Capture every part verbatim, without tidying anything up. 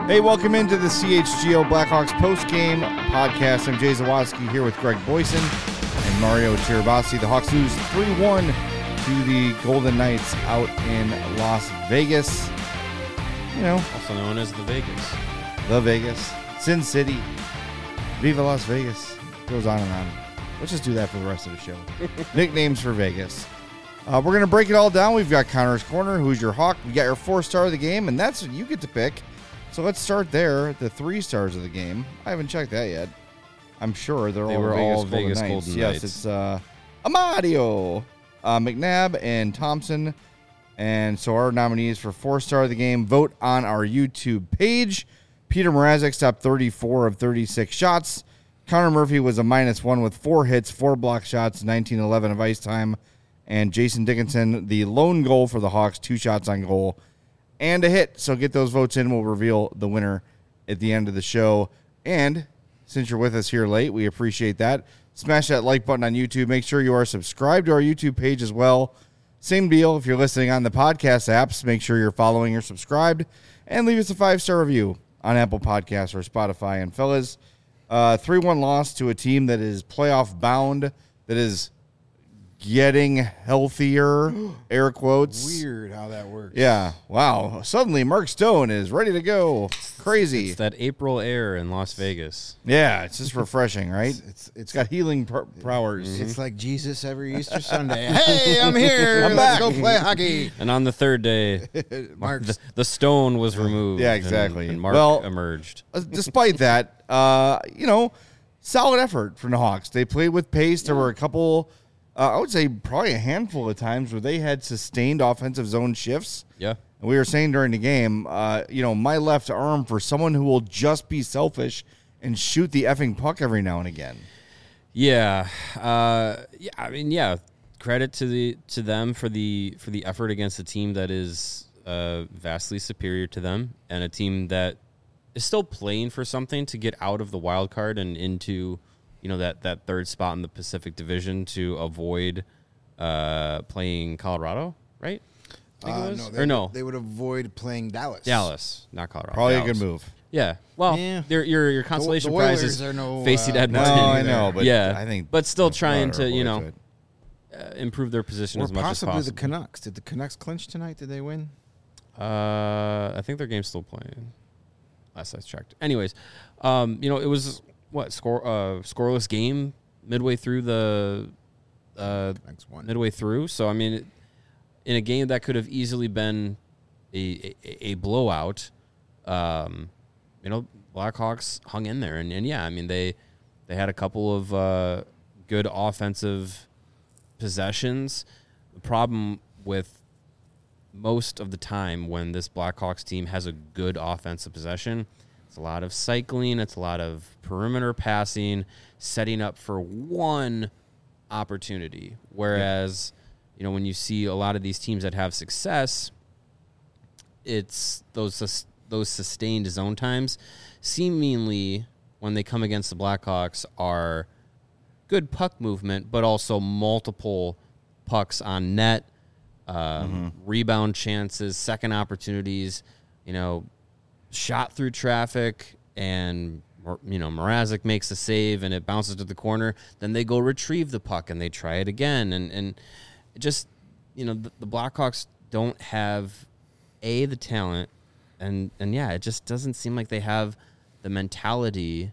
Hey, welcome into the C H G O Blackhawks post-game podcast. I'm Jay Zawadski here with Greg Boyson and Mario Tirabassi. The Hawks lose three one to the Golden Knights out in Las Vegas. You know, also known as the Vegas. The Vegas. Sin City. Viva Las Vegas. Goes on and on. Let's just do that for the rest of the show. Nicknames for Vegas. Uh, we're going to break it all down. We've got Connor's Corner. Who's your Hawk? We got your four-star of the game, and that's what you get to pick. So let's start there. The three stars of the game. I haven't checked that yet. I'm sure they're they all were Vegas, all Golden, Vegas Knights. Golden Yes, Knights. it's uh, Amadio, uh, McNabb, and Thompson. And so our nominees for four-star of the game, vote on our YouTube page. Peter Mrazek stopped thirty-four of thirty-six shots. Connor Murphy was a minus one with four hits, four block shots, nineteen eleven of ice time. And Jason Dickinson, the lone goal for the Hawks, two shots on goal and a hit. So get those votes in. We'll reveal the winner at the end of the show. And since you're with us here late, we appreciate that. Smash that like button on YouTube. Make sure you are subscribed to our YouTube page as well. Same deal. If you're listening on the podcast apps, make sure you're following or subscribed. And leave us a five-star review on Apple Podcasts or Spotify. And fellas, uh, three one loss to a team that is playoff bound, that is getting healthier, air quotes. Weird how that works. Yeah. Wow. Suddenly Mark Stone is ready to go. Crazy. It's that April air in Las Vegas. Yeah, it's just refreshing, right? It's it's, It's got healing pr- powers. it's like Jesus every Easter Sunday. Hey, I'm here. I'm Let's back. go play hockey. And on the third day, Mark's the, the stone was removed. Yeah, and- exactly. And, Mark Well- emerged. Uh, Despite that, uh, you know, solid effort from the Hawks. They played with pace. There were a couple, uh, I would say probably a handful of times where they had sustained offensive zone shifts. Yeah. And we were saying during the game, uh, you know, my left arm for someone who will just be selfish and shoot the effing puck every now and again. Yeah. Uh, yeah. I mean, yeah. Credit to the to them for the for the effort against a team that is uh, vastly superior to them, and a team that is still playing for something to get out of the wild card and into, you know, that, that third spot in the Pacific Division to avoid uh, playing Colorado, right? I think Uh, it was? no, they or would, no, they would avoid playing Dallas. Dallas, not Colorado. Probably Dallas. a good move. Yeah. Well, Yeah. your your your consolation the prize Oilers is are no, facing uh, Edmonton. No, I know, but yeah, I think, but still that's trying not to our you way know to it. uh, improve their position Or as much as possibly possible. the Canucks. Did the Canucks clinch tonight? Did they win? Uh, I think their game's still playing. Last I checked. Anyways, um, you know, it was what score uh scoreless game midway through the uh Canucks won. midway through. So I mean, it, in a game that could have easily been a a, a blowout, um, you know, Blackhawks hung in there, and, and yeah, I mean they they had a couple of uh, good offensive possessions. The problem with most of the time when this Blackhawks team has a good offensive possession, it's a lot of cycling, it's a lot of perimeter passing, setting up for one opportunity. Whereas, you know, when you see a lot of these teams that have success, it's those sus- those sustained zone times seemingly when they come against the Blackhawks are good puck movement, but also multiple pucks on net, um, mm-hmm. rebound chances, second opportunities, you know, shot through traffic, and, you know, Mrazek makes a save and it bounces to the corner. Then they go retrieve the puck and they try it again. And, and just, you know, the, the Blackhawks don't have, A, the talent, and, and yeah, it just doesn't seem like they have the mentality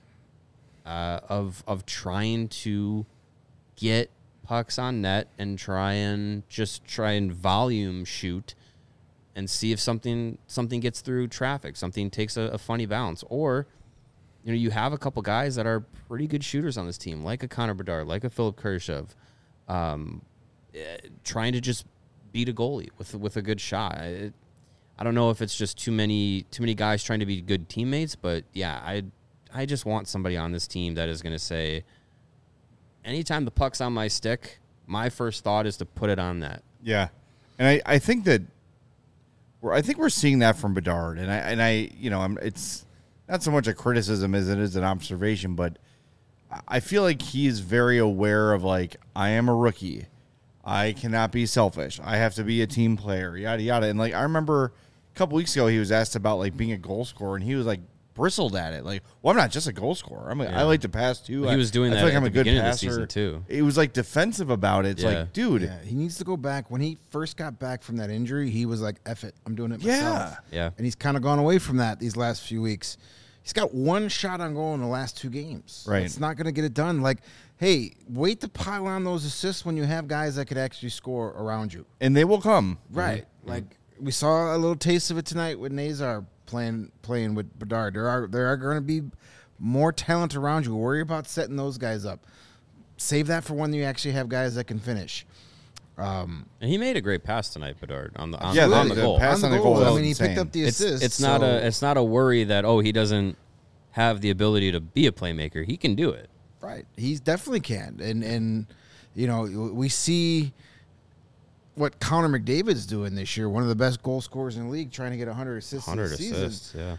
uh, of of trying to get pucks on net and try and just try and volume shoot and see if something something gets through traffic, something takes a, a funny bounce. Or, you know, you have a couple guys that are pretty good shooters on this team, like a Connor Bedard, like a Philip Kurashev, um, eh, trying to just beat a goalie with with a good shot. It, I don't know if it's just too many too many guys trying to be good teammates, but yeah, I I just want somebody on this team that is going to say, anytime the puck's on my stick, my first thought is to put it on net. Yeah, and I, I think that we're I think we're seeing that from Bedard, and I and I you know I'm it's not so much a criticism as it is an observation, but I feel like he's very aware of, like, I am a rookie, I cannot be selfish, I have to be a team player, yada yada, and like I remember a couple weeks ago he was asked about like being a goal scorer, and he was like bristled at it. Like, well, I'm not just a goal scorer. I'm like, Yeah. I like to pass too. Well, he was doing I, that I feel like at I'm the a good beginning of the passer. season, too. It was like defensive about it. It's Yeah. like, dude, Yeah, he needs to go back. When he first got back from that injury, he was like, F it, I'm doing it Yeah. myself. Yeah. And he's kind of gone away from that these last few weeks. He's got one shot on goal in the last two games. Right. It's not going to get it done. Like, hey, wait to pile on those assists when you have guys that could actually score around you. and they will come. Right. Like, we saw a little taste of it tonight with Nazar playing playing with Bedard. There are there are going to be more talent around you. Worry about setting those guys up. Save that for when you actually have guys that can finish. Um, And he made a great pass tonight, Bedard, on the on, Yeah, on the- the the goal. pass on the goal I was mean, he insane. picked up the it's assist. it's not so- a it's not a worry that oh he doesn't have the ability to be a playmaker. He can do it. Right. He definitely can. And, and you know, we see what Connor McDavid's doing this year, one of the best goal scorers in the league, trying to get one hundred assists one hundred this season. assists. Yeah.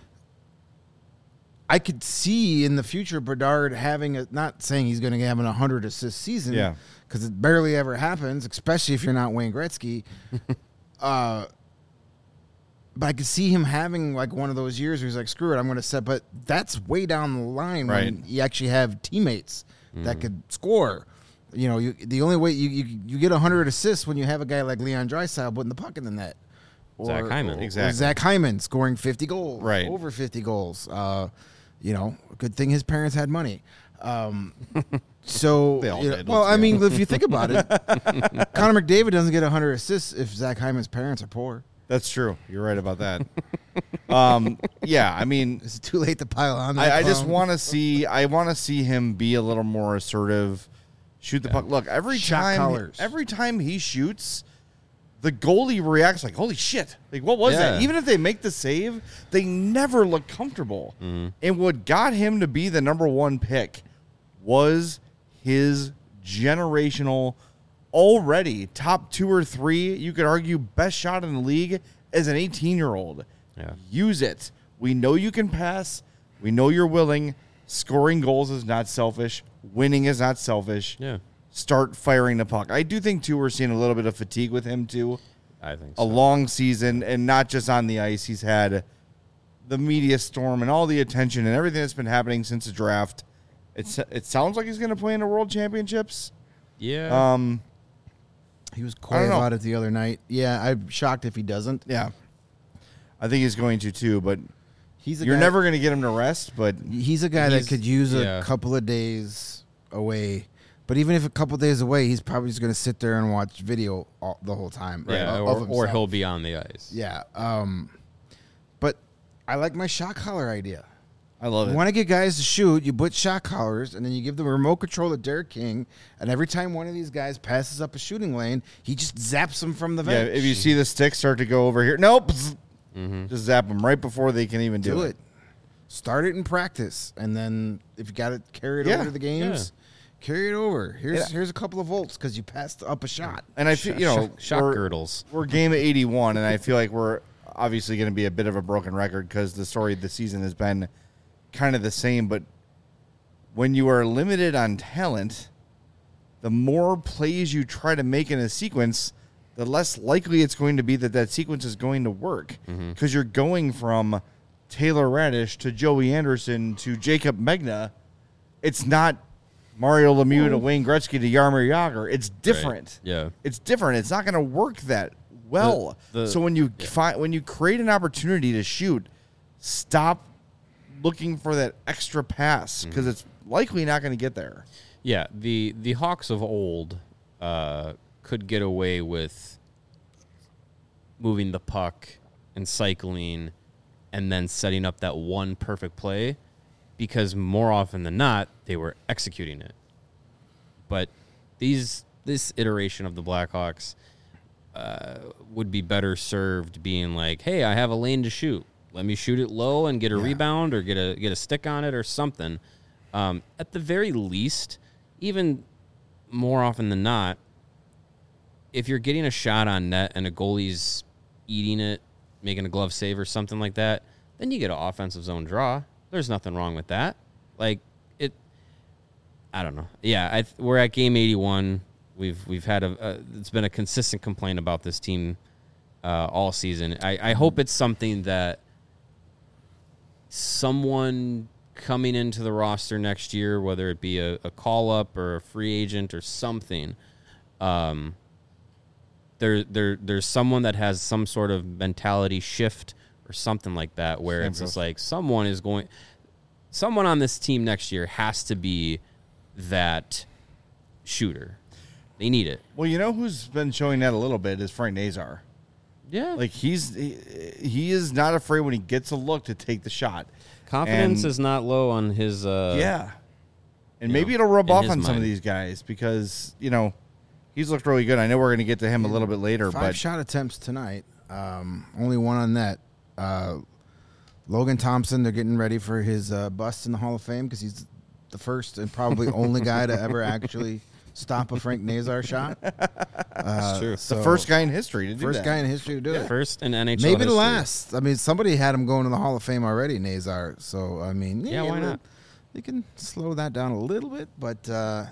I could see in the future Bedard having a, not saying he's going to have an one hundred assist season, Yeah. because it barely ever happens, especially if you're not Wayne Gretzky. uh, but I could see him having like one of those years where he's like, screw it, I'm going to set. But that's way down the line Right. when you actually have teammates that could score. You know, you, the only way you, you you get one hundred assists when you have a guy like Leon Draisaitl putting the puck in the net. Or, Zach Hyman. or- or Exactly. Zach Hyman scoring fifty goals. Right. Over fifty goals. Uh, you know, good thing his parents had money. Um, so, They all you know, did, well, let's I be mean, if you think about it, Connor McDavid doesn't get one hundred assists if Zach Hyman's parents are poor. That's true. You're right about that. um, yeah, I mean, Is it too late to pile on? that I, I just clown? want to see. I want to see him be a little more assertive. Shoot the puck. Look, every Shot time, callers. every time he shoots, the goalie reacts like, "Holy shit!" Like, what was Yeah. that? Even if they make the save, they never look comfortable. And what got him to be the number one pick was his generational, already top two or three. You could argue best shot in the league as an eighteen-year-old. Yeah. Use it. We know you can pass. We know you're willing. Scoring goals is not selfish. Winning is not selfish. Yeah. Start firing the puck. I do think, too, we're seeing a little bit of fatigue with him, too. I think A so. long season, and not just on the ice. He's had the media storm and all the attention and everything that's been happening since the draft. It's, it sounds like he's going to play in the World Championships. Yeah. Um, He was I quiet don't know. about it the other night. Yeah, I'm shocked if he doesn't. yeah. I think he's going to, too, but He's a you're guy, never going to get him to rest, but He's a guy He's- that could use a yeah. couple of days away. But even if a couple of days away, he's probably just going to sit there and watch video all, the whole time. yeah. of- Or, of or himself. he'll be on the ice. Yeah. Um, but I like my shot collar idea. I love You it. want to get guys to shoot, you put shot collars, and then you give them remote control to Derek King, and every time one of these guys passes up a shooting lane, he just zaps them from the Yeah, bench. if you see the stick start to go over here, nope, just zap them right before they can even do, do it. it. Start it in practice, and then if you got to carry it Yeah, over to the games, carry it over. Here's here's a couple of volts because you passed up a shot. And I feel, you know, Shot, shot we're, girdles. we're game of eighty-one, and I feel like we're obviously going to be a bit of a broken record because the story of the season has been kind of the same. But when you are limited on talent, the more plays you try to make in a sequence, the less likely it's going to be that that sequence is going to work because you're going from Taylor Radish to Joey Anderson to Jacob Megna. It's not Mario Lemieux to Wayne Gretzky to Jaromir Jagr. It's different. Yeah. It's different. It's not going to work that well. The- the- so when you find when you create an opportunity to shoot, stop looking for that extra pass because it's likely not going to get there. Yeah, the the Hawks of old uh, could get away with moving the puck and cycling and then setting up that one perfect play because more often than not, they were executing it. But these this iteration of the Blackhawks uh, would be better served being like, hey, I have a lane to shoot. Let me shoot it low and get a rebound or get a get a stick on it or something. Um, at the very least, even more often than not, if you're getting a shot on net and a goalie's eating it, making a glove save or something like that, then you get an offensive zone draw. There's nothing wrong with that. Like it, I don't know. Yeah, I, we're at game eighty-one. We've we've had a, a it's been a consistent complaint about this team uh, all season. I, I hope it's something that someone coming into the roster next year, whether it be a, a call-up or a free agent or something, um, there, there, there's someone that has some sort of mentality shift or something like that, where Same it's just goes. like someone is going, someone on this team next year has to be that shooter. They need it. Well, you know who's been showing that a little bit is Frank Nazar. Yeah, Like he's he, he is not afraid when he gets a look to take the shot. confidence and- is not low on his. Uh, Yeah. And you maybe know, it'll rub in off his on some of mind. these guys because, you know, he's looked really good. I know we're going to get to him a little bit later, Five but shot attempts tonight. Um, only one on net. Uh, Logan Thompson, they're getting ready for his uh, bust in the Hall of Fame because he's the first and probably only guy to ever actually stop a Frank Nazar shot. Uh, true. so the first guy in history to do first that. guy in history to do it. First in N H L Maybe the history. last. I mean, somebody had him going to the Hall of Fame already, Nazar. So, I mean, Yeah, why not? They can slow that down a little bit, but uh,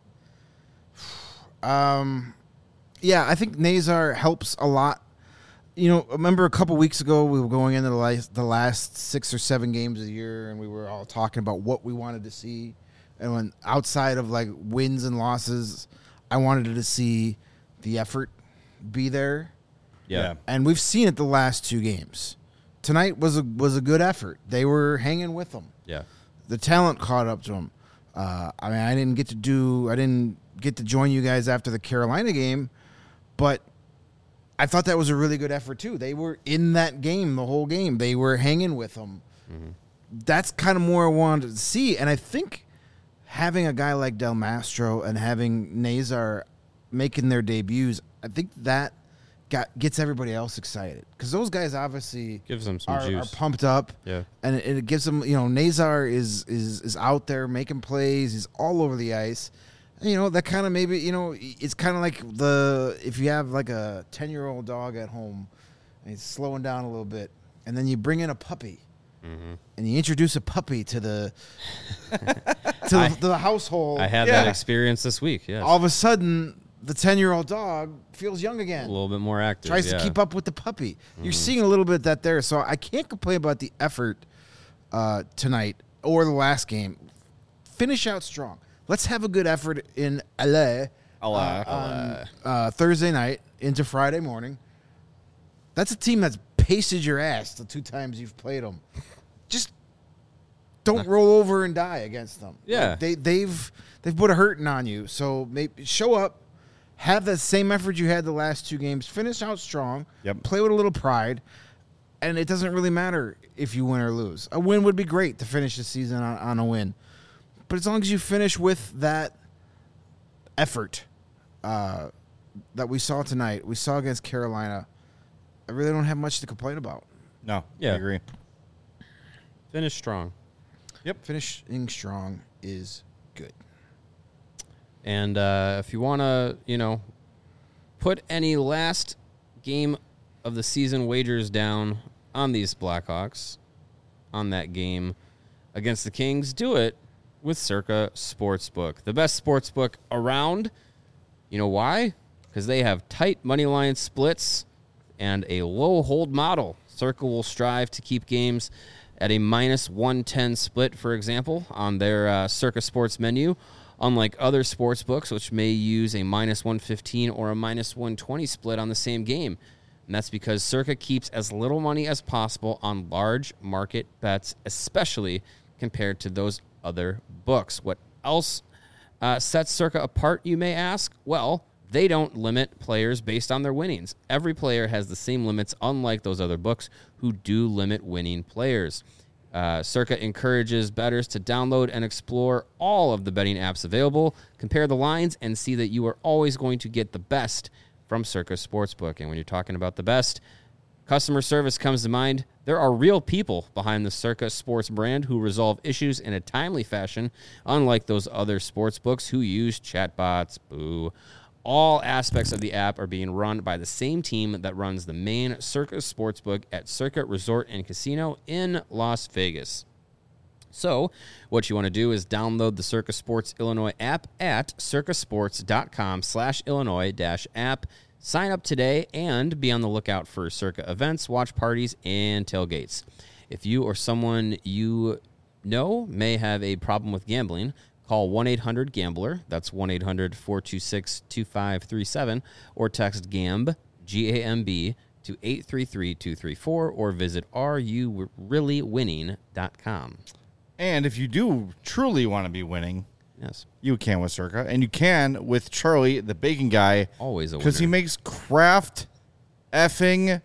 um, yeah, I think Nazar helps a lot. You know, remember a couple weeks ago we were going into the last, the last six or seven games of the year, and we were all talking about what we wanted to see. And when outside of like wins and losses, I wanted to see the effort be there. Yeah. And we've seen it the last two games. Tonight was a was a good effort. They were hanging with them. Yeah. The talent caught up to them. Uh, I mean, I didn't get to do. I didn't get to join you guys after the Carolina game, but I thought that was a really good effort too. They were in that game the whole game. They were hanging with them. Mm-hmm. That's kind of more I wanted to see, and I think having a guy like Del Mastro and having Nazar making their debuts, I think that got gets everybody else excited because those guys obviously Gives them some are, are juice. pumped up. Yeah. And it, it gives them, you know, Nazar is is is out there making plays. He's all over the ice. And, you know, that kind of maybe, you know, it's kind of like the if you have like a ten-year-old dog at home and he's slowing down a little bit, and then you bring in a puppy. Mm-hmm. And you introduce a puppy to the to, I- the, to the household. I had Yeah. that experience this week. Yes. All of a sudden, the ten-year-old dog feels young again. a little bit more active. Tries yeah. to keep up with the puppy. You're seeing a little bit of that there. So I can't complain about the effort uh, tonight or the last game. Finish out strong. Let's have a good effort in L A I'll, uh, uh, on uh, Thursday night into Friday morning. That's a team that's pasted your ass the two times you've played them. Just don't roll over and die against them. Yeah. Like, they they've they've put a hurting on you. So maybe show up, have that same effort you had the last two games. Finish out strong. Yep. Play with a little pride, and it doesn't really matter if you win or lose. A win would be great to finish the season on, on a win, but as long as you finish with that effort uh, that we saw tonight, we saw against Carolina, I really don't have much to complain about. no, Yeah. I agree. Finish strong. Finishing strong is good. And uh, if you want to, you know, put any last game of the season wagers down on these Blackhawks, on that game against the Kings, do it with Circa Sportsbook, the best sportsbook around. You know why? Because they have tight money line splits and a low hold model. Circa will strive to keep games at a minus one ten split, for example, on their uh, Circa Sports menu, unlike other sports books, which may use a minus one fifteen or a minus one twenty split on the same game. And that's because Circa keeps as little money as possible on large market bets, especially compared to those other books. What else uh, sets Circa apart, you may ask? Well, they don't limit players based on their winnings. Every player has the same limits, unlike those other books who do limit winning players. Uh, Circa encourages bettors to download and explore all of the betting apps available, compare the lines, and see that you are always going to get the best from Circa Sportsbook. And when you're talking about the best, customer service comes to mind. There are real people behind the Circa Sports brand who resolve issues in a timely fashion, unlike those other sports books who use chatbots. Boo. All aspects of the app are being run by the same team that runs the main Circa Sportsbook at Circa Resort and Casino in Las Vegas. So, what you want to do is download the Circa Sports Illinois app at circasports.com slash Illinois dash app. Sign up today and be on the lookout for Circa events, watch parties, and tailgates. If you or someone you know may have a problem with gambling, call one eight hundred gambler. That's one eight hundred four two six two five three seven, or text GAMB, G A M B, to eight three three two three four, or visit are you really winning dot com. And if you do truly want to be winning, Yes. you can with Circa, and you can with Charlie, the bacon guy. Always a Because he winner. makes craft effing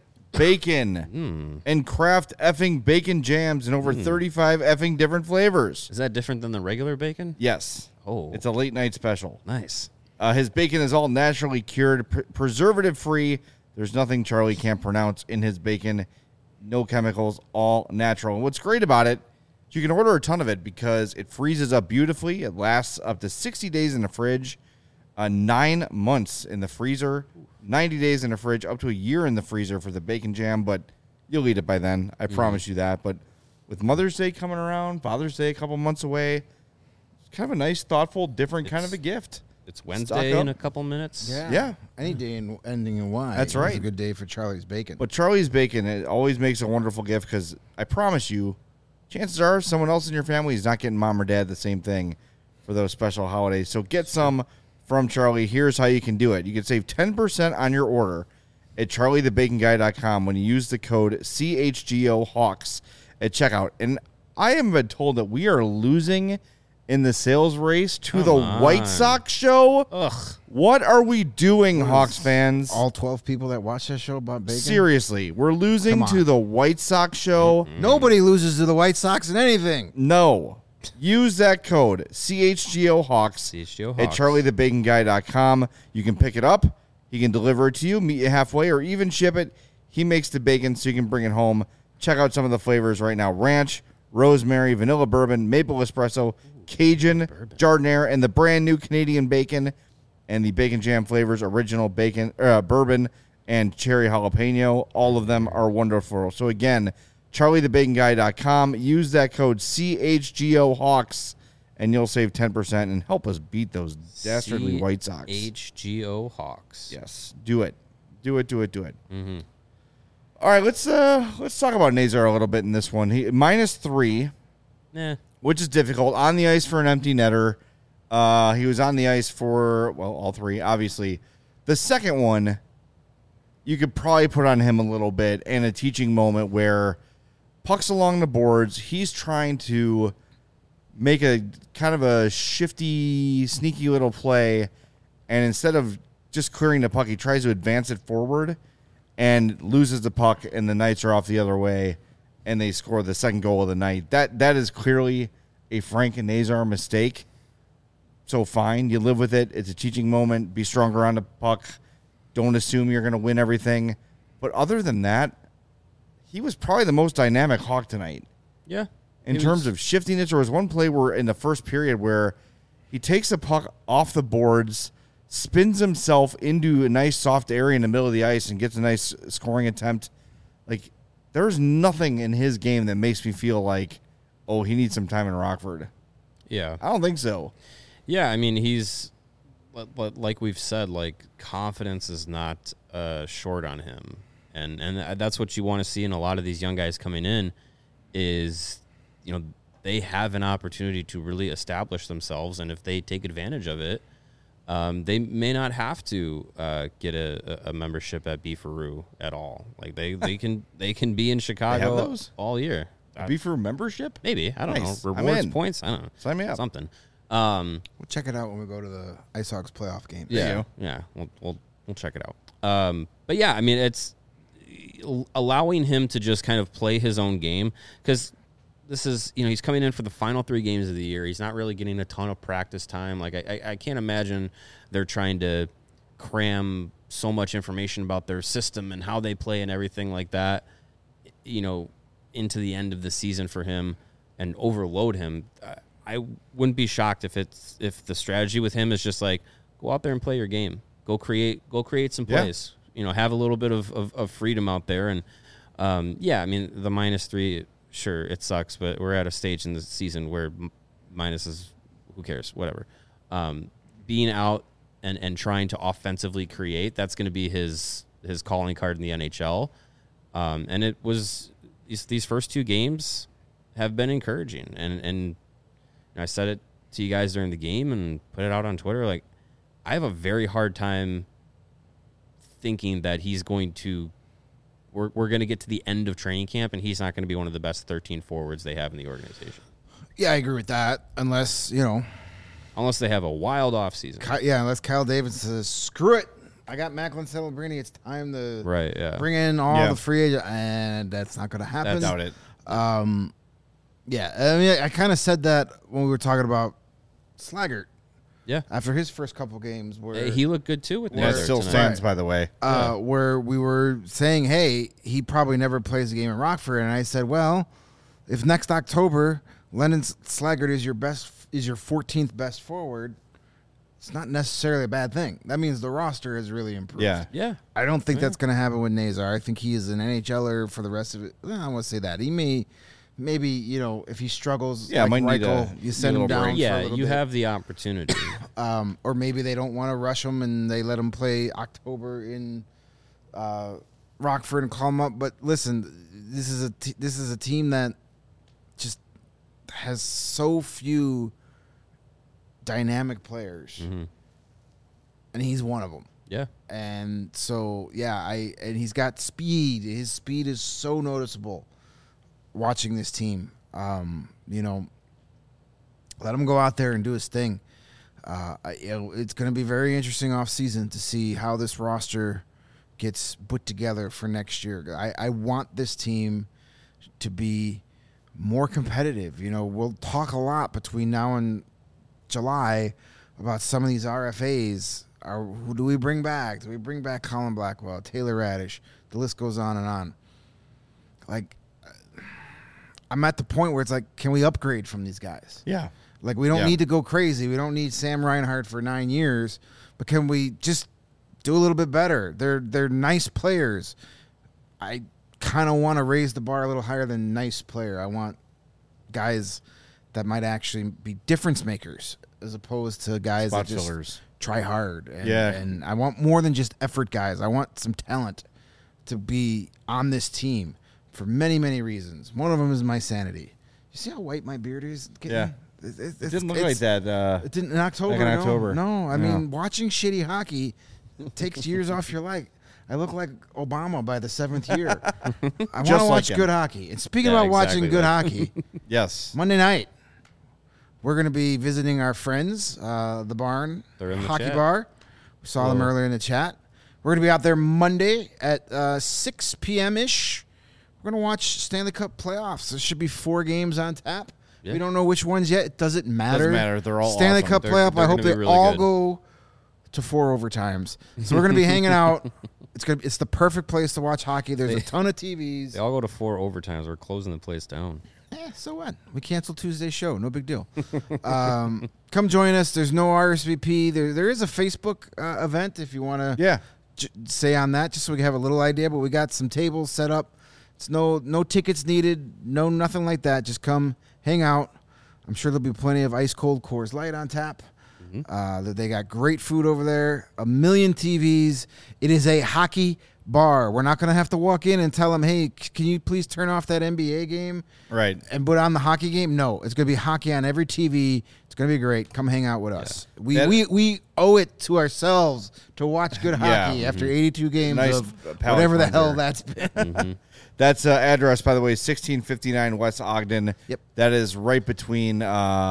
bacon and craft effing bacon jams in over thirty-five effing different flavors. Is that different than the regular bacon? Yes. Oh. It's a late night special. Nice. Uh, his bacon is all naturally cured, pr- preservative free. There's nothing Charlie can't pronounce in his bacon. No chemicals, all natural. And what's great about it, you can order a ton of it because it freezes up beautifully. It lasts up to sixty days in the fridge, uh, nine months in the freezer, ninety days in the fridge, up to a year in the freezer for the bacon jam. But you'll eat it by then. I Mm-hmm. promise you that. But with Mother's Day coming around, Father's Day a couple months away, it's kind of a nice, thoughtful, different kind of a gift. It's Wednesday up. in a couple minutes. Yeah. Yeah. Any day in, ending in Y. That's is right. a good day for Charlie's Bacon. But Charlie's Bacon, it always makes a wonderful gift because I promise you, chances are someone else in your family is not getting mom or dad the same thing for those special holidays. So get some from Charlie. Here's how you can do it. You can save ten percent on your order at charlie the bacon guy dot com when you use the code C H G O Hawks at checkout. And I am been told that we are losing in the sales race to Come the on. White Sox show. Ugh. What are we doing, Hawks fans? all twelve people that watch that show about bacon? Seriously, we're losing Come on. to the White Sox show. Nobody loses to the White Sox in anything. No. Use that code, C H G O Hawks, C H G O at Hawks. charlie the bacon guy dot com. You can pick it up. He can deliver it to you, meet you halfway, or even ship it. He makes the bacon so you can bring it home. Check out some of the flavors right now. Ranch, rosemary, vanilla bourbon, maple espresso, Cajun, Jardiniere, and the brand new Canadian bacon. And the bacon jam flavors, original bacon, uh, bourbon, and cherry jalapeno. All of them are wonderful. So again, charlie the bacon guy dot com. Use that code C H G O Hawks, and you'll save ten percent and help us beat those dastardly White Sox. H G O Hawks. Yes, do it, do it, do it, do it. Mm-hmm. All right, let's uh let's talk about Nazar a little bit in this one. He minus three, Nah. which is difficult on the ice for an empty netter. Uh, he was on the ice for well all three, obviously. The second one, you could probably put on him a little bit, and a teaching moment where pucks along the boards. He's trying to make a kind of a shifty, sneaky little play, and instead of just clearing the puck, he tries to advance it forward and loses the puck, and the Knights are off the other way, and they score the second goal of the night. That that is clearly a Frank and Nazar mistake. So fine, you live with it. It's a teaching moment. Be stronger on the puck. Don't assume you're going to win everything. But other than that, he was probably the most dynamic Hawk tonight. Yeah. In He terms was- of shifting it, there was one play where in the first period where he takes the puck off the boards, spins himself into a nice soft area in the middle of the ice, and gets a nice scoring attempt. Like, there's nothing in his game that makes me feel like, oh, he needs some time in Rockford. Yeah. I don't think so. Yeah, I mean, he's li- li- like we've said, like confidence is not uh, short on him, and and that's what you want to see in a lot of these young guys coming in. Is you know they have an opportunity to really establish themselves, and if they take advantage of it, um, they may not have to uh, get a, a membership at Beefaroo at all. Like they, they can they can be in Chicago those? all year. Uh, Beefaroo membership? maybe I don't Nice. know I'm rewards in. points. I don't know Sign me up. something. Um, We'll check it out when we go to the Ice Hawks playoff game. There you yeah, go. yeah, we'll we'll we'll check it out. Um, but yeah, I mean, it's allowing him to just kind of play his own game because this is you know he's coming in for the final three games of the year. He's not really getting a ton of practice time. Like I, I, I can't imagine they're trying to cram so much information about their system and how they play and everything like that. You know, into the end of the season for him and overload him. Uh, I wouldn't be shocked if it's if the strategy with him is just like go out there and play your game, go create, go create some Yeah. plays. You know, have a little bit of, of, of freedom out there, and um, yeah, I mean the minus three, sure it sucks, but we're at a stage in the season where m- minus is who cares, whatever. Um, being out and, and trying to offensively create, that's going to be his his calling card in the N H L. Um, and it was these, these first two games have been encouraging. And, and I said it to you guys during the game and put it out on Twitter. Like, I have a very hard time thinking that he's going to we're, we're going to get to the end of training camp and he's not going to be one of the best thirteen forwards they have in the organization. Yeah, I agree with that. Unless, you know, unless they have a wild offseason. Ky- yeah, unless Kyle Davis says, screw it. I got Macklin Celebrini. It's time to Right, yeah. bring in all Yeah. the free agents. And that's not going to happen. I doubt it. Um, yeah, I mean, I kind of said that when we were talking about Slaggert Yeah. after his first couple games where Hey, he looked good too with That Nether still tonight. stands, by the way. uh, Yeah. where we were saying, hey, he probably never plays a game in Rockford. And I said, well, if next October Lennon Slaggert is your best, is your fourteenth best forward, it's not necessarily a bad thing. That means the roster has really improved. Yeah. Yeah. I don't think that's going to happen with Nazar. I think he is an N H L er for the rest of it. Well, I want to say that. He may, maybe, you know, if he struggles, Yeah, like might need Reichel, a- you send need a him little down break. for a Yeah, little you bit. have the opportunity. Um, or maybe they don't want to rush him and they let him play October in uh, Rockford and call him up. But listen, this is a t- this is a team that just has so few dynamic players, Mhm. and he's one of them. Yeah. And so, yeah, I and he's got speed. His speed is so noticeable. Watching this team, um, you know, let him go out there and do his thing. Uh, I, you know, it's going to be very interesting off season to see how this roster gets put together for next year. I, I want this team to be more competitive. You know, we'll talk a lot between now and July about some of these R F As. Are, who do we bring back? Do we bring back Colin Blackwell, Taylor Radish? The list goes on and on. Like, I'm at the point where it's like, can we upgrade from these guys? Yeah. Like, we don't Yeah. need to go crazy. We don't need Sam Reinhart for nine years, but can we just do a little bit better? They're they're nice players. I kind of want to raise the bar a little higher than nice player. I want guys that might actually be difference makers as opposed to guys Spot that just fillers. try hard. And, Yeah. and I want more than just effort guys. I want some talent to be on this team for many, many reasons. One of them is my sanity. You see how white my beard is getting? Yeah. It, it, It didn't look like that. Uh, It didn't in October. Like in no. October. No, I No. mean, watching shitty hockey takes years off your life. I look like Obama by the seventh year. I want to Just like watch him. good hockey. And speaking Yeah, about watching exactly good like- hockey, yes. Monday night, we're going to be visiting our friends, uh, the Barn They're in the Hockey chat. Bar. We saw them Hello. earlier in the chat. We're going to be out there Monday at uh, six p.m.-ish. We're going to watch Stanley Cup playoffs. There should be four games on tap. Yeah. We don't know which ones yet. It doesn't matter. Doesn't matter. They're all Stanley awesome. Cup They're- playoff. they're I hope gonna they be really all good. go to four overtimes. So we're going to be hanging out. It's gonna. It's the perfect place to watch hockey. There's a ton of T Vs. They all go to four overtimes. We're closing the place down. Eh, so what? We canceled Tuesday's show. No big deal. um, come join us. There's no R S V P. There, there is a Facebook uh, event if you want to Yeah. j- say on that, just so we can have a little idea. But we got some tables set up. It's no no tickets needed. No nothing like that. Just come hang out. I'm sure there'll be plenty of ice cold Coors Light on tap. Uh, that they got great food over there. A million T Vs. It is a hockey bar. We're not going to have to walk in and tell them, hey, c- can you please turn off that N B A game Right. and put on the hockey game? No, it's going to be hockey on every T V. It's going to be great. Come hang out with us. We, That- we we owe it to ourselves to watch good Yeah. hockey after eighty-two games Nice of palate whatever the cleanser. hell that's been. That's uh, address, by the way, sixteen fifty-nine West Ogden. Yep. That is right between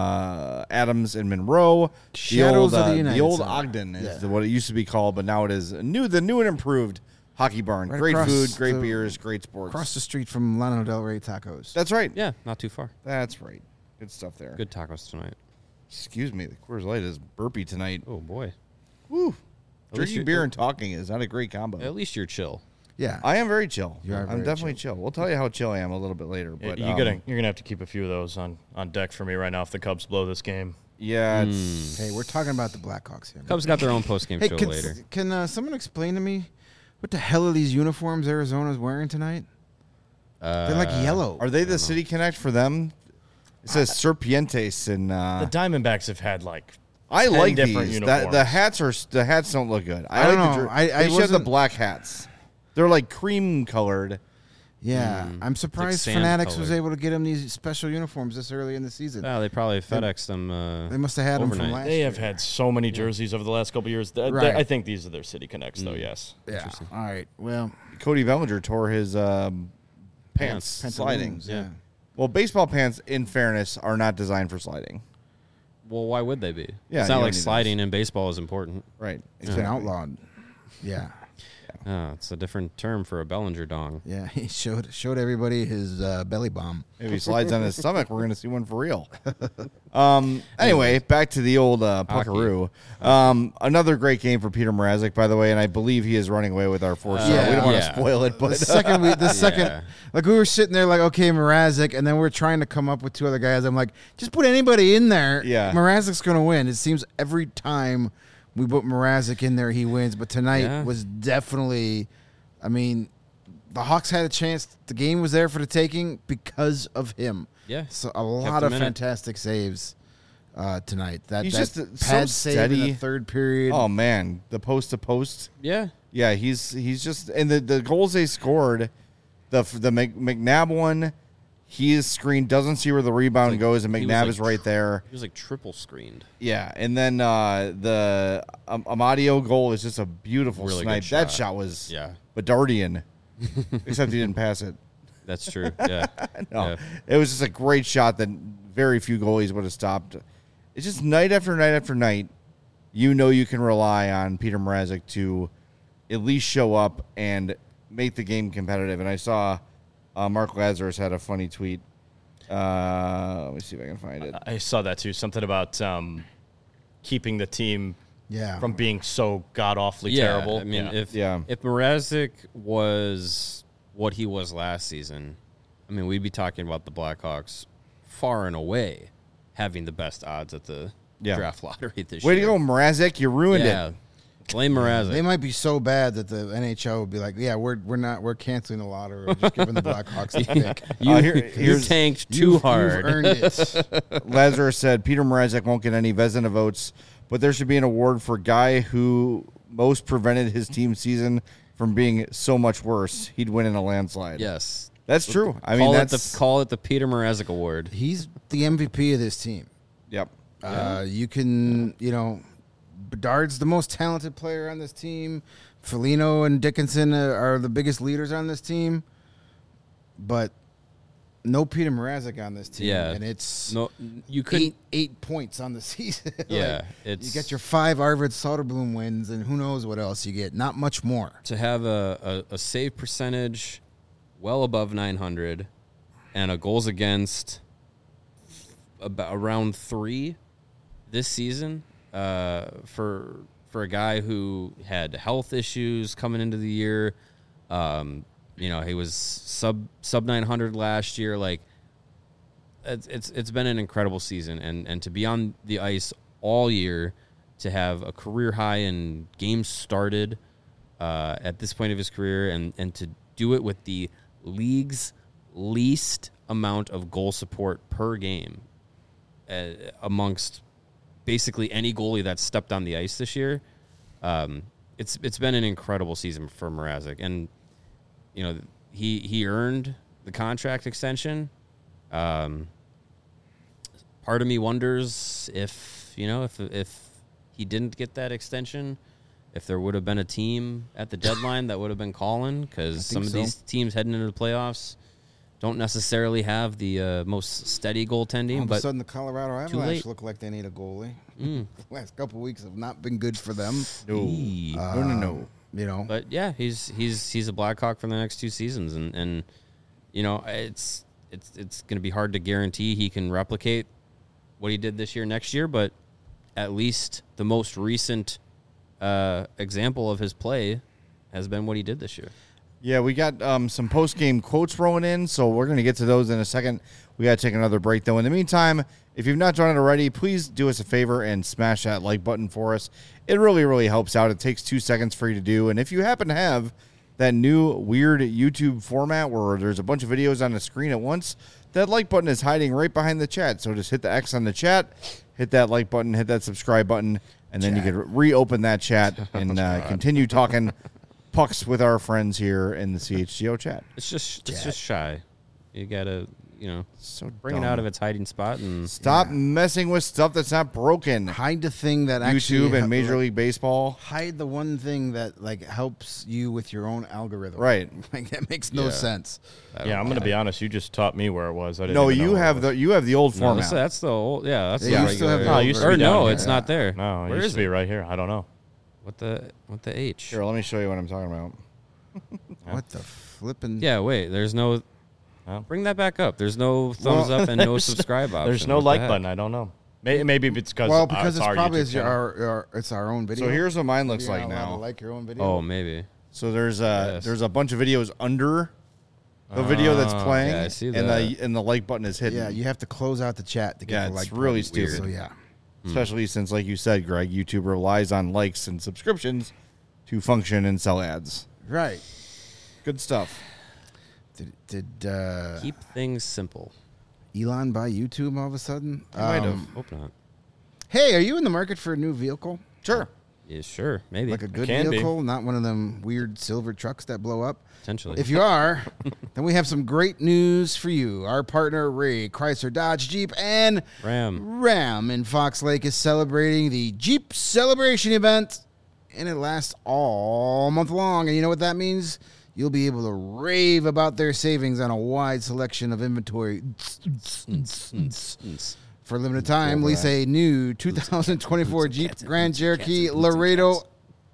uh, Adams and Monroe. Shadows the old, of the uh, United the old Center. Ogden is Yeah. the- what it used to be called, but now it is a new, the new and improved hockey barn. Right great across food, great the- beers, great sports. Across the street from Lano Del Rey Tacos. That's right. Yeah, not too far. That's right. Good stuff there. Good tacos tonight. Excuse me, the Coors Light is burpy tonight. Oh boy. Woo. least Drinking you- beer and talking is not a great combo. At least you're chill. Yeah. I am very chill. You are I'm very definitely chill. We'll tell you how chill I am a little bit later. Yeah, But you um, gotta, you're gonna have to keep a few of those on, on deck for me right now if the Cubs blow this game. Yeah, it's Hey, we're talking about the Blackhawks here. Cubs got their own post game Hey, show can, later. can uh, someone explain to me what the hell are these uniforms Arizona's wearing tonight? They're like Uh, yellow. Are they the City Connect for them? It says Serpientes and uh, The Diamondbacks have had like I ten like different these. uniforms. That, the hats are the hats don't look good. I, I like don't the know. jer- I- I they should have the wasn't- black hats. They're like cream colored. Yeah, Mm. I'm surprised sand Fanatics was colored. able to get him these special uniforms this early in the season. Oh, they probably FedExed them. Uh, They must have had them from overnight. last They year. have had so many jerseys over the last couple years. Th- th- Right. I think these are their City Connects, though. Mm. Yes. Yeah. All right. Well, Cody Bellinger tore his um, pants Pants. sliding. pantaloons, yeah. Well, baseball pants, in fairness, are not designed for sliding. well, why would they be? Yeah, it's you not don't like need sliding in baseball is important. Right. It's been outlawed. Yeah. Oh, it's a different term for a Bellinger dong. Yeah. He showed showed everybody his uh, belly bomb. If he slides on his stomach, we're going to see one for real. Um. Anyway, back to the old uh, Hockey. Puckaroo. Um. Another great game for Peter Mrazek, by the way, and I believe he is running away with our four star. Yeah. We don't want to Yeah. spoil it, The but second we, the second, Yeah. like we were sitting there, like okay, Mrazek, and then we're trying to come up with two other guys. I'm like, just put anybody in there. Yeah. Mrazek's gonna win. It seems every time we put Mrazek in there, he wins. But tonight Yeah. was definitely, I mean, the Hawks had a chance. The game was there for the taking because of him. Yeah. So a lot him of in it. fantastic saves uh, tonight. That He's that just, uh, so pad save in steady. the third period. oh man, the post to post. Yeah. Yeah, he's he's just and the, the goals they scored, the the Mc- McNabb one, he is screened, doesn't see where the rebound Like, goes, and he was McNabb like is right tr- there. He was like triple screened. Yeah, and then uh, the um, Amadio goal is just a beautiful Really snipe. good That shot. shot was Yeah. Bedardian, except he didn't pass it. That's true. Yeah. No, Yeah. it was just a great shot that very few goalies would have stopped. It's just night after night after night, you know you can rely on Peter Mrazek to at least show up and make the game competitive. And I saw uh, Mark Lazarus had a funny tweet. Uh, let me see if I can find it. I saw that too. Something about um, keeping the team yeah. from being so god awfully Yeah, terrible. I mean, Yeah. if Yeah. if Mrazek was what he was last season, I mean, we'd be talking about the Blackhawks far and away having the best odds at the Yeah. draft lottery this Way year. to go, Mrazek! You ruined Yeah. it. Blame Mrazek. They might be so bad that the N H L would be like, "Yeah, we're we're not we're canceling the lottery. We're just giving the Blackhawks the pick. you, Uh, here- you here's- tanked too You've- hard. You've earned it." Lazarus said Peter Mrazek won't get any Vezina votes, but there should be an award for guy who most prevented his team season from being so much worse. He'd win in a landslide. Yes. That's true. I call mean, it that's the call it the Peter Mrazek Award. He's the M V P of this team. yep. Uh, you can, you know, Bedard's the most talented player on this team. Foligno and Dickinson are, are the biggest leaders on this team, but no Peter Mrazek on this team. Yeah. and it's No, you couldn't. eight eight points on the season. Like, Yeah, you it's get your five Arvid Soderblom wins, and who knows what else you get. Not much more. to have a, a, a save percentage well above nine hundred and a goals against about around three this season uh, for for a guy who had health issues coming into the year. Um, you know, he was sub sub nine hundred last year. Like it's it's it's been an incredible season, and and to be on the ice all year, to have a career high in games started uh, at this point of his career, and and to do it with the league's least amount of goal support per game uh, amongst basically any goalie that's stepped on the ice this year. Um, it's it's been an incredible season for Mrazek, and you know he he earned the contract extension. Um, part of me wonders if you know if if he didn't get that extension, if there would have been a team at the deadline that would have been calling, because some of so. these teams heading into the playoffs don't necessarily have the uh, most steady goaltending. All of a But sudden, the Colorado late. Avalanche look like they need a goalie. Mm. The last couple of weeks have not been good for them. No. Eee. no, no, no. Um, You know, But yeah, he's he's he's a Blackhawk for the next two seasons, and, and you know it's it's it's going to be hard to guarantee he can replicate what he did this year next year, but at least the most recent uh, example of his play has been what he did this year. Yeah, we got um, some post-game quotes rolling in, so we're going to get to those in a second. We got to take another break, though. In the meantime, if you've not done it already, please do us a favor and smash that like button for us. It really, really helps out. It takes two seconds for you to do. And if you happen to have that new weird YouTube format where there's a bunch of videos on the screen at once, that like button is hiding right behind the chat. So just hit the X on the chat, hit hit that like button, hit that subscribe button, and then Chat. you can reopen that chat and uh, continue talking pucks with our friends here in the C H G O chat. It's just it's just shy. You gotta you know So bring it out of its hiding spot and Stop messing with stuff that's not broken. Hide the thing that actually YouTube and hel- Major League Baseball. Hide the one thing that like helps you with your own algorithm. Right. Like that makes no Yeah. sense. I Yeah, don't I'm know. going to be honest. You just taught me where it was. I didn't No, even know you where it have was. the you have the old No, format. that's, that's the old yeah. That's Yeah, the you still have regular. the No, it used to or be down no, here. it's not there. No, it Where used is to be it? right here. I don't know. What the what the H? Here, let me show you what I'm talking about. What the flipping? Yeah, wait. There's no. Well. Bring that back up. There's no thumbs Well, up and no subscribe option. There's no What the like heck? button. I don't know. Maybe, maybe it's because Well, because uh, it's our probably YouTube it's your, channel. our, our it's our own video. So here's what mine looks You're like not allowed to now. Like your own video. Oh, maybe. So there's a Yes. there's a bunch of videos under the video that's Ah, playing, yeah, I see and that. the and the like button is hidden. Yeah, you have to close out the chat to get Yeah, the it's like really button. stupid. So yeah, Especially since, like you said, Greg, YouTube relies on likes and subscriptions to function and sell ads. right. Good stuff. Did did uh, Keep things simple. Elon buy YouTube all of a sudden? He might have. Um, Hope not. Hey, are you in the market for a new vehicle? Sure. Yeah, sure. Maybe. Like a good can be. vehicle, not one of them weird silver trucks that blow up. Potentially. If you are, then we have some great news for you. Our partner, Ray Chrysler Dodge Jeep and Ram. Ram in Fox Lake is celebrating the Jeep Celebration event, and it lasts all month long. And you know what that means? You'll be able to rave about their savings on a wide selection of inventory. For a limited time, lease a new two thousand twenty-four Jeep Grand Cherokee Laredo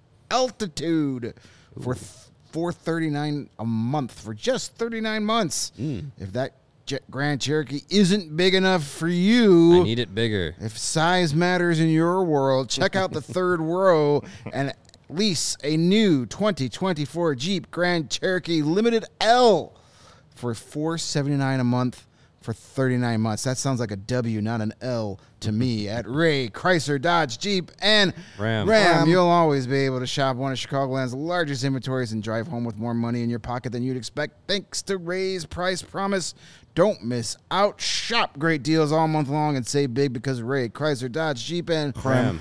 Altitude for four thirty-nine a month for just thirty-nine months. If that Je- Grand Cherokee isn't big enough for you, I need it bigger. if size matters in your world, check out the third row and lease a new twenty twenty-four Jeep Grand Cherokee Limited L for four seventy-nine a month for thirty-nine months. That sounds like a W, not an L to me. At Ray Chrysler Dodge Jeep and Ram. Ram, Ram. you'll always be able to shop one of Chicagoland's largest inventories and drive home with more money in your pocket than you'd expect thanks to Ray's price promise. Don't miss out. Shop great deals all month long and save big because Ray Chrysler Dodge Jeep and Ram.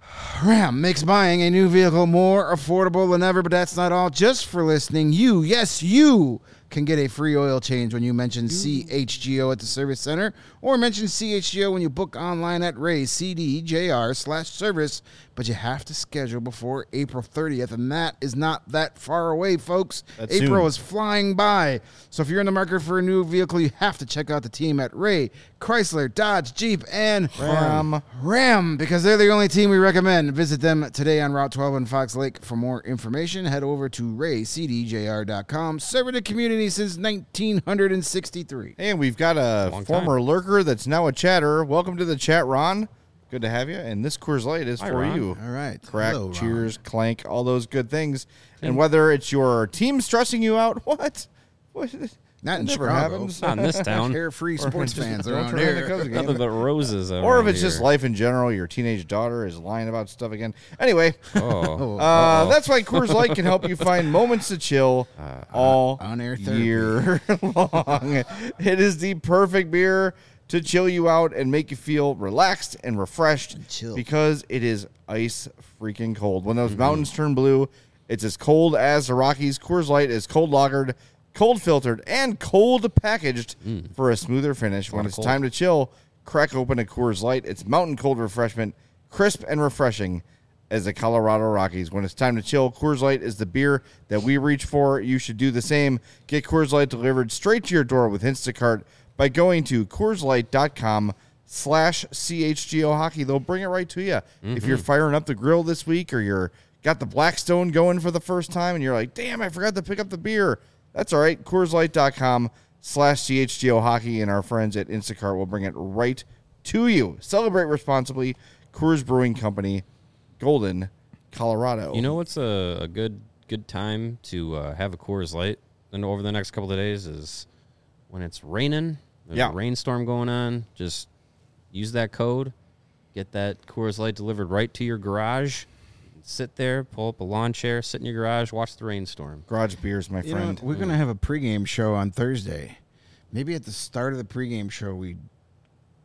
Ram makes buying a new vehicle more affordable than ever, but that's not all. Just for listening, you, yes, you can get a free oil change when you mention C H G O at the service center or mention C H G O when you book online at Ray's C D J R slash service, but you have to schedule before April thirtieth, and that is not that far away, folks. That's April soon. is flying by. So if you're in the market for a new vehicle, you have to check out the team at Ray, Chrysler, Dodge, Jeep, and Ram. Ram, because they're the only team we recommend. Visit them today on Route twelve in Fox Lake. For more information, head over to ray c d j r dot com. Serving the community since nineteen sixty-three. And we've got a Long former lurker that's now a chatter. Welcome to the chat, Ron. Good to have you. And this Coors Light is Hi, for Ron. you. All right. Crack, Hello, Ron. cheers, clank, all those good things. And whether it's your team stressing you out, what? What? Not in That never Chicago. happens. Not in this town. Carefree sports just fans don't around turn on the here. Cubs game. Nothing but roses. Or if around it's just here. life in general, your teenage daughter is lying about stuff again. Anyway, Oh. uh, that's why Coors Light can help you find moments to chill all on-air therapy. year long. It is the perfect beer to chill you out and make you feel relaxed and refreshed chill. because it is ice freaking cold. When those mountains turn blue, it's as cold as the Rockies. Coors Light is cold lagered, cold filtered, and cold packaged for a smoother finish. When lot of it's cold. time to chill, crack open a Coors Light. It's mountain cold refreshment, crisp and refreshing as the Colorado Rockies. When it's time to chill, Coors Light is the beer that we reach for. You should do the same. Get Coors Light delivered straight to your door with Instacart by going to CoorsLight.com slash CHGO Hockey. They'll bring it right to you. If you're firing up the grill this week or you're got the Blackstone going for the first time and you're like, damn, I forgot to pick up the beer. That's all right. CoorsLight.com slash CHGO Hockey, and our friends at Instacart will bring it right to you. Celebrate responsibly. Coors Brewing Company, Golden, Colorado. You know what's a, a good good time to uh, have a Coors Light and over the next couple of days is when it's raining. There's Yeah. a rainstorm going on. Just use that code. Get that Coors Light delivered right to your garage. Sit there, pull up a lawn chair, sit in your garage, watch the rainstorm. Garage beers, my You know, friend. we're going to have a pregame show on Thursday. Maybe at the start of the pregame show, we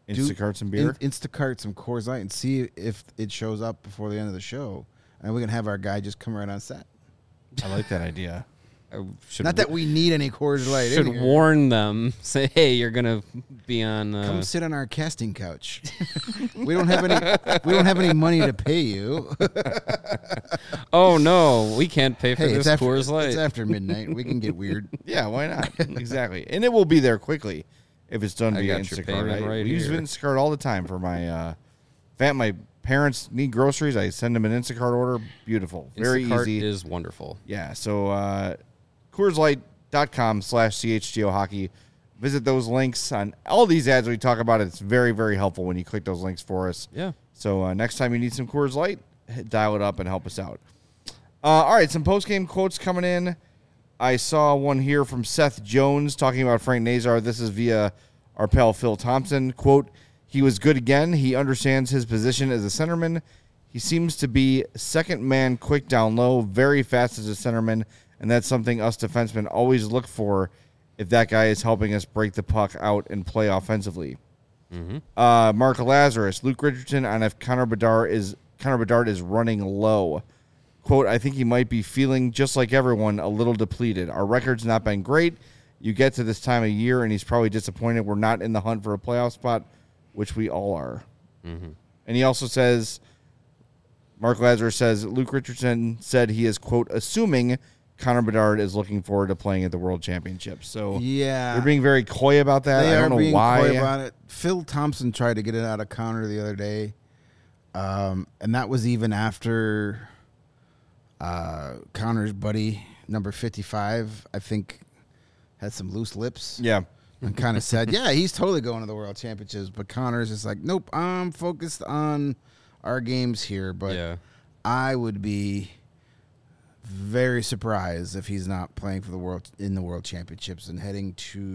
do- Instacart some beer. In, Instacart some Coors Light and see if it shows up before the end of the show, and we can have our guy just come right on set. I like that idea. I should Not that we need any Coors Light. should in here. warn them. Say, hey, you're gonna be on. Come Uh, sit on our casting couch. we don't have any. We don't have any money to pay you. oh no, we can't pay for hey, this it's after, Coors Light. it's after midnight. We can get weird. Yeah, why not? Exactly. And it will be there quickly if it's done I via got your Instacart. payment I, right we use here. Instacart all the time for my uh fam- my parents need groceries. I send them an Instacart order. Beautiful. Very Instacart easy. is wonderful. Yeah, so uh Coors Light dot com slash C H G O hockey. Visit those links on all these ads we talk about. It's very, very helpful when you click those links for us. Yeah. So uh, next time you need some Coors Light, hit- dial it up and help us out. Uh, all right, some post-game quotes coming in. I saw one here from Seth Jones talking about Frank Nazar. This is via our pal Phil Thompson. Quote, he was good again. He understands his position as a centerman. He seems to be second man quick down low, very fast as a centerman, and that's something us defensemen always look for if that guy is helping us break the puck out and play offensively. Mm-hmm. Uh, Mark Lazarus, Luke Richardson on if Connor Bedard is Connor Bedard is running low. Quote, I think he might be feeling just like everyone, a little depleted. Our record's not been great. You get to this time of year, and he's probably disappointed we're not in the hunt for a playoff spot, which we all are. Mm-hmm. And he also says, Mark Lazarus says, Luke Richardson said he is, quote, assuming Connor Bedard is looking forward to playing at the World Championships. So Yeah, they're being very coy about that. They I are don't know being why. coy about it. Phil Thompson tried to get it out of Connor the other day, um, and that was even after uh, Connor's buddy, number fifty-five, I think, had some loose lips. Yeah. And kind of said, yeah, he's totally going to the World Championships. But Connor's just like, nope, I'm focused on our games here. But Yeah. I would be very surprised if he's not playing for the world in the World Championships and heading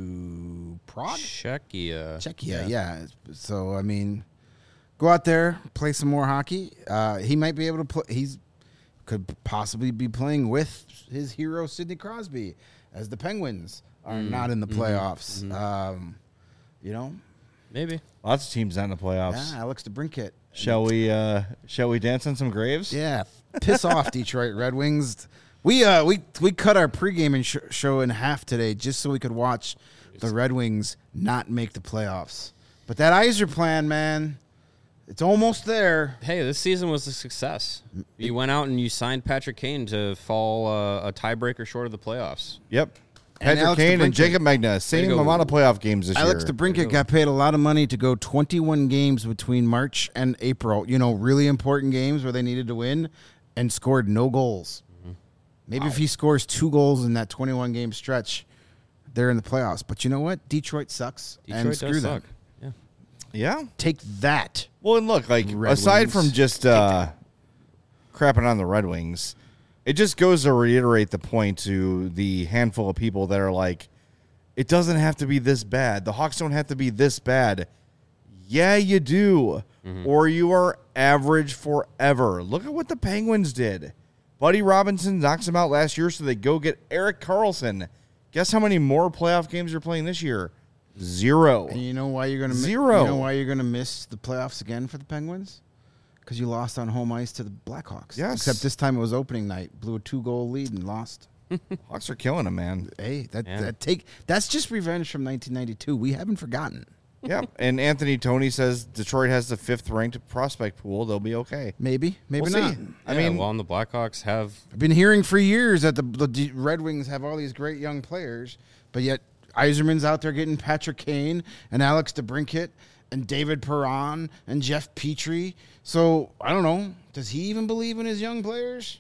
to Prague, Czechia. Czechia. Yeah. So I mean, go out there, play some more hockey. Uh, he might be able to play. He's could possibly be playing with his hero Sidney Crosby, as the Penguins are Mm, not in the mhm, playoffs. mhm. Um, you know, Maybe. Lots of teams not in the playoffs. yeah, Alex DeBrincat. Shall we uh shall we dance on some graves? Yeah, piss off, Detroit Red Wings. We uh we we cut our pregame and sh- show in half today just so we could watch the Red Wings not make the playoffs. But that Iser plan, man, it's almost there. Hey, this season was a success. You went out and you signed Patrick Kane to fall uh, a tiebreaker short of the playoffs. Yep. And Patrick Alex Kane and DeBrincat. Jacob Magna, same go. amount of playoff games this Alex year. DeBrincat got paid a lot of money to go twenty-one games between March and April. You know, really important games where they needed to win, and scored no goals. Maybe if he scores two goals in that twenty-one game stretch, they're in the playoffs. But you know what? Detroit sucks, Detroit and screw does them. suck. Yeah. Yeah. Take that. Well, and look, like Red aside Wings. from just uh, crapping on the Red Wings, it just goes to reiterate the point to the handful of people that are like, it doesn't have to be this bad. The Hawks don't have to be this bad. Yeah, you do. Or you are average forever. Look at what the Penguins did. Buddy Robinson knocks them out last year, so they go get Eric Carlson. Guess how many more playoff games you're playing this year? Zero. And you know why you're gonna mi- Zero. You know why you're gonna miss the playoffs again for the Penguins? Because you lost on home ice to the Blackhawks. Yes. Except this time it was opening night. Blew a two goal lead and lost. Hawks are killing them, man. Hey, that, Yeah. that take that's just revenge from nineteen ninety-two. We haven't forgotten. Yeah, and Anthony Tony says Detroit has the fifth ranked prospect pool. They'll be okay. Maybe, maybe We'll not. see. I Yeah, mean, well, and the Blackhawks have I've been hearing for years that the, the D- Red Wings have all these great young players, but yet Iserman's out there getting Patrick Kane and Alex DeBrincat and David Perron and Jeff Petrie. So I don't know. Does he even believe in his young players?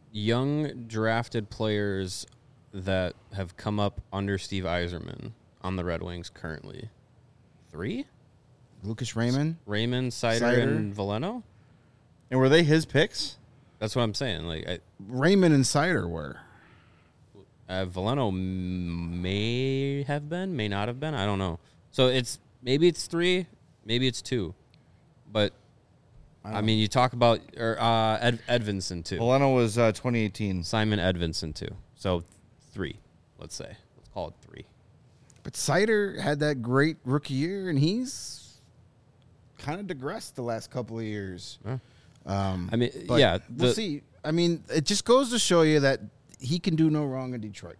young drafted players that have come up under Steve Yzerman on the Red Wings currently. Three? Lucas Raymond. Raymond, Sider, Sider. and Valeno? and were they his picks? That's what I'm saying. Like, I, Raymond and Sider were. uh, Valeno m- may have been, may not have been. I don't know. So it's maybe it's three, maybe it's two. But, I, mean, you talk about or, uh, Ed, Edvinson, too. Valeno was uh, twenty eighteen. Simon Edvinson, too. So three, let's say. Let's call it three. But Sider had that great rookie year, and he's kind of digressed the last couple of years. Yeah. Um, I mean, but yeah, we'll the- see. I mean, it just goes to show you that he can do no wrong in Detroit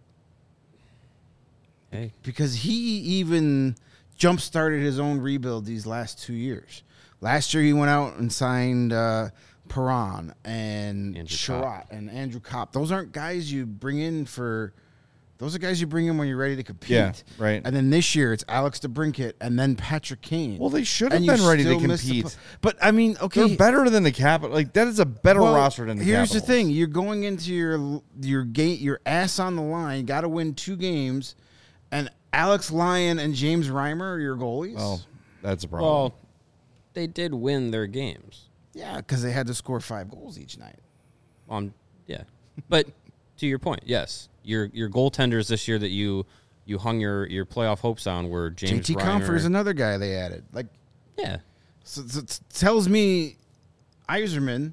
Hey, because he even jump started his own rebuild these last two years. Last year, he went out and signed uh, Perron and Andrew Sherratt and Andrew Kopp. Those aren't guys you bring in for. Those are guys you bring in when you're ready to compete. Yeah, right. And then this year, it's Alex DeBrincat and then Patrick Kane. Well, they should have And you been ready to still missed the compete. pl- But, I mean, okay. They're better than the Capitals. Like, that is a better Well, roster than the here's Capitals. the thing: you're going into your your gate, your ass on the line. Got to win two games, and Alex Lyon and James Reimer are your goalies. Well, that's a problem. well, they did win their games. yeah, because they had to score five goals each night. On yeah, but to your point, yes, your your goaltenders this year that you you hung your, your playoff hopes on were James J T Reimer. Compher is another guy they added. Like, Yeah, so, so it tells me Yzerman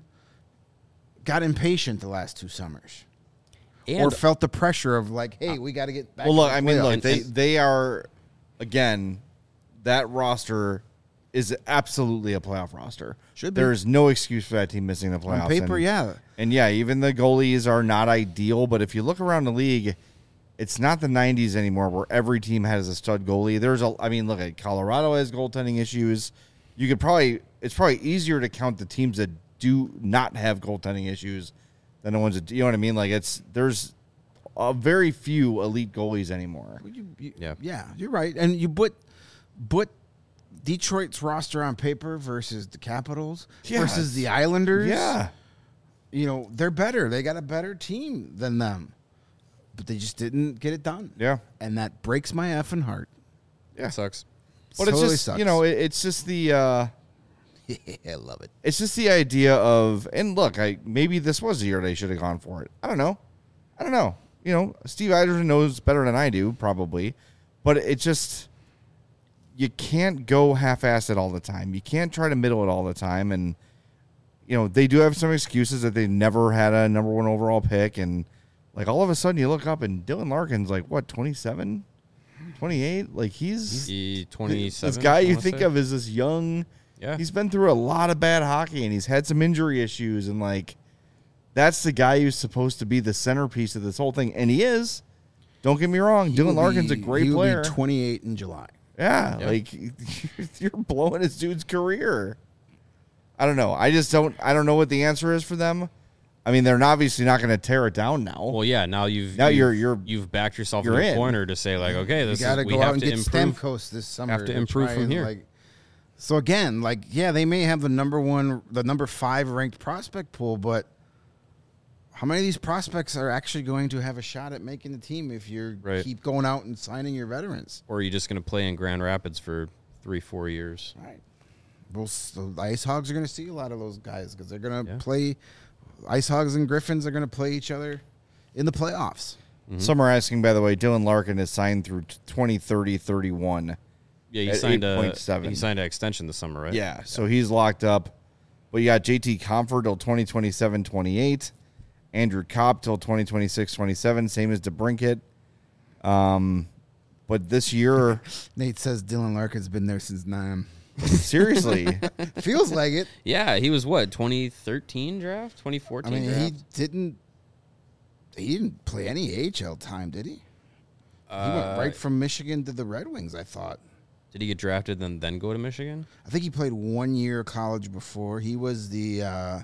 got impatient the last two summers, and or felt the pressure of like, hey, we got to get back. Well, in look, the I mean, playoffs. look, And- they and- they are again that roster is absolutely a playoff roster. Should be. There is no excuse for that team missing the playoffs. on paper, and, yeah. and yeah, even the goalies are not ideal. But if you look around the league, it's not the nineties anymore where every team has a stud goalie. There's a, I mean, look at Colorado has goaltending issues. You could probably, it's probably easier to count the teams that do not have goaltending issues than the ones that, you know what I mean? Like it's there's a very few elite goalies anymore. You, you, Yeah. yeah, you're right. And you put put Detroit's roster on paper versus the Capitals Yeah, versus the Islanders. Yeah. you know they're better. They got a better team than them, but they just didn't get it done. Yeah. and that breaks my effing heart. Yeah. sucks. But it's Totally just sucks. you know, it, it's just the uh I love it. it's just the idea of and look, I maybe this was the year they should have gone for it. I don't know. I don't know. You know, Steve Eiserman knows better than I do, probably. But it just you can't go half-assed it all the time. You can't try to middle it all the time. And you know, they do have some excuses that they never had a number one overall pick. And like all of a sudden you look up and Dylan Larkin's like what, twenty-seven, twenty-eight? Like he's He twenty-seven. this guy I you wanna think say. of as this young. Yeah. He's been through a lot of bad hockey and he's had some injury issues and like that's the guy who's supposed to be the centerpiece of this whole thing, and he is. Don't get me wrong, He Dylan will Larkin's a be- great he will player. Be twenty-eight in July. yeah, Yeah. like you're blowing this dude's career. I don't know. I just don't. I don't know what the answer is for them. I mean, they're obviously not going to tear it down now. Well, yeah. Now you've Now you've, you're- you're- you've backed yourself you're in a in. corner to say like, okay, You this got to is we go have out and to get improve. Stamkos this summer. have to improve try from and, here. Like, so again, like yeah, they may have the number one, the number five ranked prospect pool, but how many of these prospects are actually going to have a shot at making the team if you Right. keep going out and signing your veterans? Or are you just going to play in Grand Rapids for three, four years? Right. Well, so the Ice Hogs are going to see a lot of those guys because they're going to Yeah. play. Ice Hogs and Griffins are going to play each other in the playoffs. Some are asking, by the way, Dylan Larkin is signed through twenty thirty thirty-one. Yeah, he At signed a eight point seven. he signed an extension this summer, right? Yeah, so he's locked up. But you got J T Comfort till twenty twenty-seven twenty-eight. Andrew Kopp till twenty twenty-six twenty-seven, same as DeBrincat. Um, but this year, Nate says Dylan Larkin's been there since nine. seriously, Feels like it. Yeah, he was what, twenty thirteen draft? twenty I fourteen mean, draft? he didn't. He didn't play any A H L time, did he? He went Uh, right from Michigan to the Red Wings. I thought. Did he get drafted and then go to Michigan? I think he played one year of college before. He was the uh,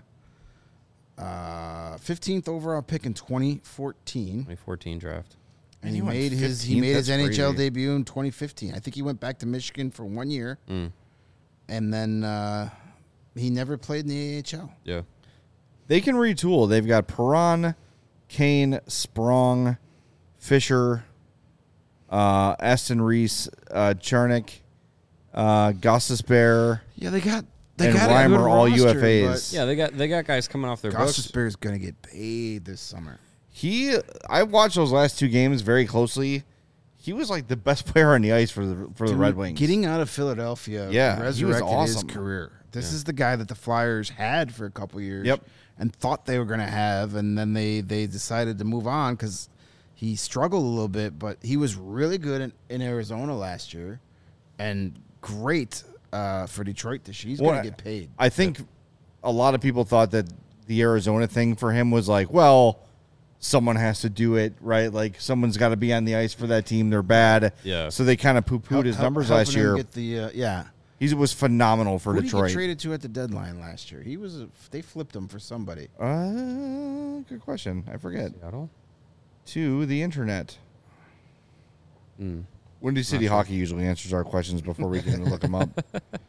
uh, fifteenth overall pick in twenty fourteen, twenty fourteen draft. and he he went made his he fifteenth? made his That's N H L crazy. debut in twenty fifteen. I think he went back to Michigan for one year, Mm, and then uh, he never played in the A H L. yeah. they can retool. They've got Perron, Kane, Sprong, Fisher, uh, Aston Reese, uh, Chernik, uh, Gostisbehere, Yeah, they got they and got a good Reimer, all roster, U F As. Yeah, they got they got guys coming off their books. Gostisbehere is going to get paid this summer. He, I watched those last two games very closely. He was like the best player on the ice for the for the Dude, Red Wings. Getting out of Philadelphia, Yeah, he was resurrected his awesome. career. This is the guy that the Flyers had for a couple years. Yep. And thought they were going to have, and then they, they decided to move on because he struggled a little bit, but he was really good in, in Arizona last year and great uh, for Detroit this year. He's Well, going to get paid. I think a lot of people thought that the Arizona thing for him was like, well, someone has to do it, right? Like someone's got to be on the ice for that team. They're bad. Yeah. So they kind of poo-pooed Help- his help- numbers last helping him year. Get the uh, yeah. He was phenomenal for Who did he Detroit. get traded to at the deadline last year? He was. A, they flipped him for somebody. Uh, good question. I forget. Seattle? To the internet. Mm. Windy City Hockey usually answers our questions before we can look them up.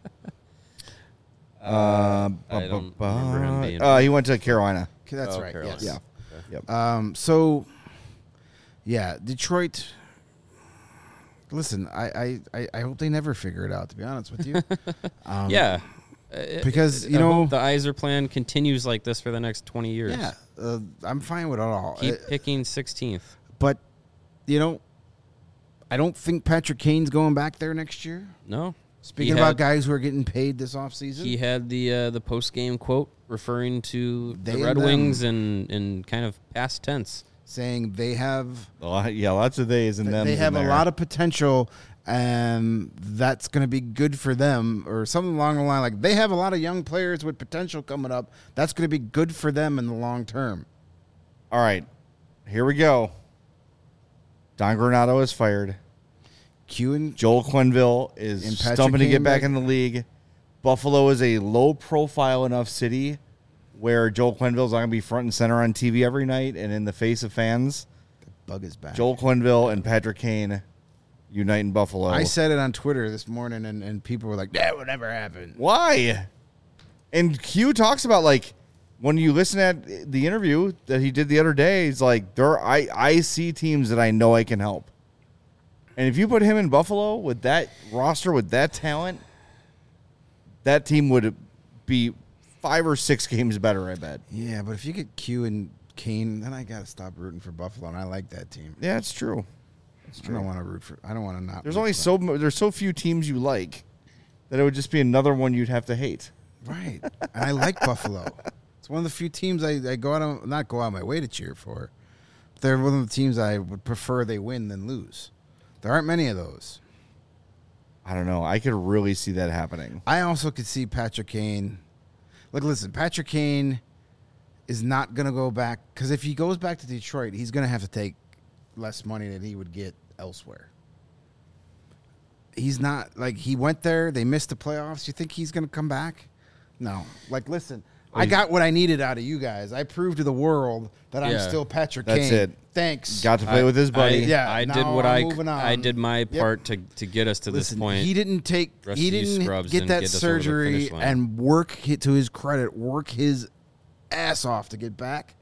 Uh, I don't remember him being- uh, he went to Carolina. Okay, that's Oh, right. Carolina. Yes. Yeah. Yep. Um. So, yeah, Detroit. Listen, I, I, I, I hope they never figure it out. To be honest with you. Um, Yeah. Because, Uh, you I know- hope the Iser plan continues like this for the next twenty years. Yeah. Uh, I'm fine with it all. Keep Uh, picking sixteenth. but, you know, I don't think Patrick Kane's going back there next year. No. Speaking He about had- guys who are getting paid this offseason. He had the uh, the post game quote referring to They the and Red them. Wings and in kind of past tense. saying they have A lot- yeah, lots of days and them. they have a lot of potential, and that's going to be good for them, or something along the line like they have a lot of young players with potential coming up. That's going to be good for them in the long term. All right, here we go. Don Granato is fired. Q and Joel Quenneville is And Patrick stumping to Kane get back back- in the league. Buffalo is a low-profile enough city where Joel Quenneville's not going to be front and center on T V every night and in the face of fans. Bug is back. Joel Quenneville and Patrick Kane unite in Buffalo. I said it on Twitter this morning, and, and people were like, "That would never happen." Why? And Q talks about, like, when you listen at the interview that he did the other day, he's like, there are, I, I see teams that I know I can help. And if you put him in Buffalo with that roster, with that talent, that team would be five or six games better, I bet. Yeah, but if you get Q and Kane, then I got to stop rooting for Buffalo, and I like that team. Yeah, it's true. I don't want to root for. I don't want to not. There's root only for so mo- there's so few teams you like that it would just be another one you'd have to hate. them. right, and I like Buffalo. It's one of the few teams I, I go out on, not go out of my way to cheer for. They're one of the teams I would prefer they win than lose. There aren't many of those. I don't know. I could really see that happening. I also could see Patrick Kane. Look, listen, Patrick Kane is not going to go back, because if he goes back to Detroit, he's going to have to take less money than he would get elsewhere. He's not, like, he went there, they missed the playoffs. You think he's going to come back? No. Like, listen, I got what I needed out of you guys. I proved to the world that I'm Yeah. still Patrick That's Kane. it. Thanks. Got to play with his buddy. I, Yeah, I did now what I'm I moving I on. did my Yep. part to to get us to Listen, this point. he didn't take, Rest he of you didn't scrubs get and that get us over the surgery finish line. and work, to his credit, work his ass off to get back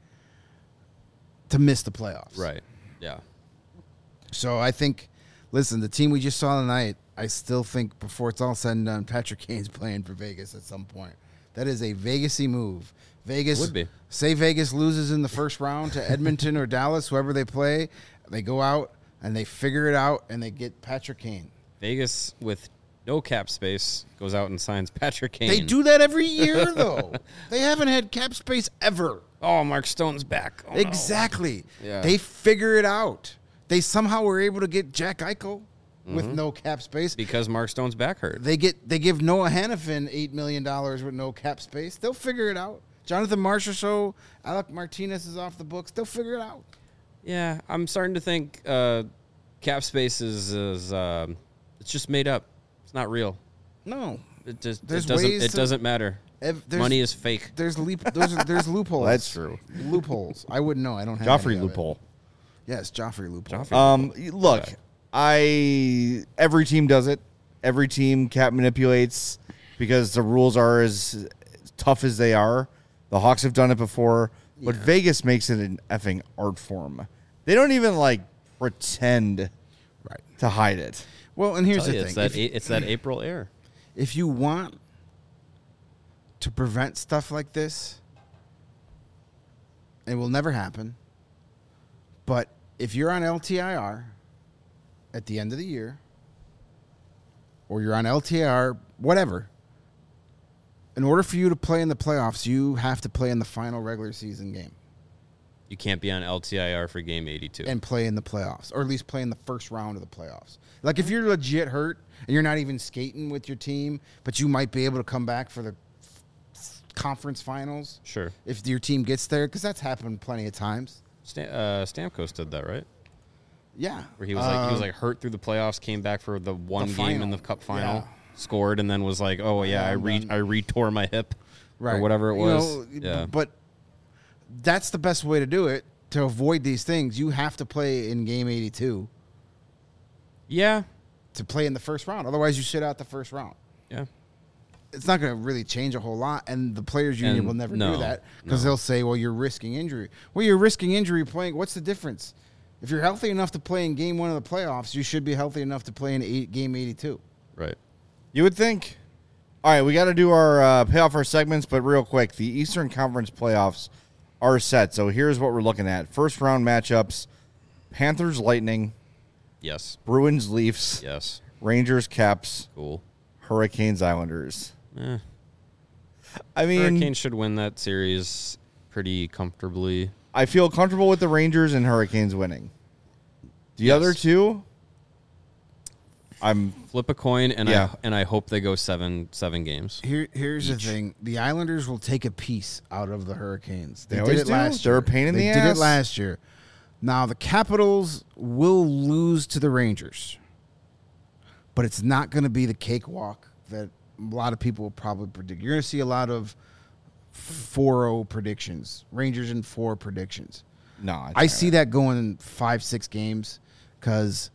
to miss the playoffs. Right. Yeah. So I think, listen, the team we just saw tonight, I still think before it's all said and done, Patrick Kane's playing for Vegas at some point. That is a Vegas-y move. Vegas Would be. Say Vegas loses in the first round to Edmonton or Dallas, whoever they play, they go out and they figure it out and they get Patrick Kane. Vegas with no cap space goes out and signs Patrick Kane. They do that every year, though. They haven't had cap space ever. Oh, Mark Stone's back. Oh, no. Exactly. Yeah. They figure it out. They somehow were able to get Jack Eichel with Mm-hmm. no cap space. Because Mark Stone's back hurt. They get they give Noah Hannafin eight million dollars with no cap space. They'll figure it out. Jonathan Marshall show, Alec Martinez is off the books. They'll figure it out. Yeah, I'm starting to think uh, cap space is, is uh, it's just made up. It's not real. No, It just There's it doesn't ways it to- doesn't matter. Ev- there's- Money is fake. There's leap. There's there's loopholes. That's true. Loopholes. I wouldn't know. I don't have Joffrey any of it. loophole. Yes, Joffrey loophole. Joffrey. Um, look, I every team does it. Every team cap manipulates because the rules are as tough as they are. The Hawks have done it before, but Vegas makes it an effing art form. They don't even like pretend Right. to hide it. Well, and here's Tell the you, thing: it's that if, a- it's that April air. if you want to prevent stuff like this, it will never happen. But if you're on L T I R at the end of the year, or you're on L T I R, whatever, in order for you to play in the playoffs, you have to play in the final regular season game. You can't be on L T I R for game eighty-two. and play in the playoffs, or at least play in the first round of the playoffs. Like if you're legit hurt and you're not even skating with your team, but you might be able to come back for the conference finals. Sure. If your team gets there, because that's happened plenty of times. Stam- uh, Stamkos did that, right? Yeah. Where he was like he was Um, like hurt through the playoffs, came back for the one The game in final. the cup final, Yeah. scored, and then was like, oh yeah, Yeah, I I'm re done. I retore my hip, right. or whatever it You was. know, yeah. But that's the best way to do it. To avoid these things, you have to play in game eighty-two Yeah. to play in the first round. Otherwise, you sit out the first round. Yeah. It's not going to really change a whole lot, and the players' union And will never no, do that because no. they'll say, "Well, you're risking injury." Well, you're risking injury playing. What's the difference? If you're healthy enough to play in game one of the playoffs, you should be healthy enough to play in eight, game eighty-two. Right. You would think. All right, we got to do our uh, pay off our segments, but real quick, the Eastern Conference playoffs are set. So here's what we're looking at: first round matchups: Panthers, Lightning; Yes. Bruins, Leafs; Yes. Rangers, Caps; Cool. Hurricanes, Islanders. Eh. I mean, Hurricanes should win that series pretty comfortably. I feel comfortable with the Rangers and Hurricanes winning. The Yes. other two, I'm Flip a coin, and Yeah. I and I hope they go seven seven games. Here, here's Each. the thing: the Islanders will take a piece out of the Hurricanes. They, They did always it do. last They're year. a pain in they the did ass. it last year. Now the Capitals will lose to the Rangers, but it's not going to be the cakewalk that a lot of people will probably predict. You're going to see a lot of four oh predictions, Rangers in four predictions. no. it's I not see that going in five, six games because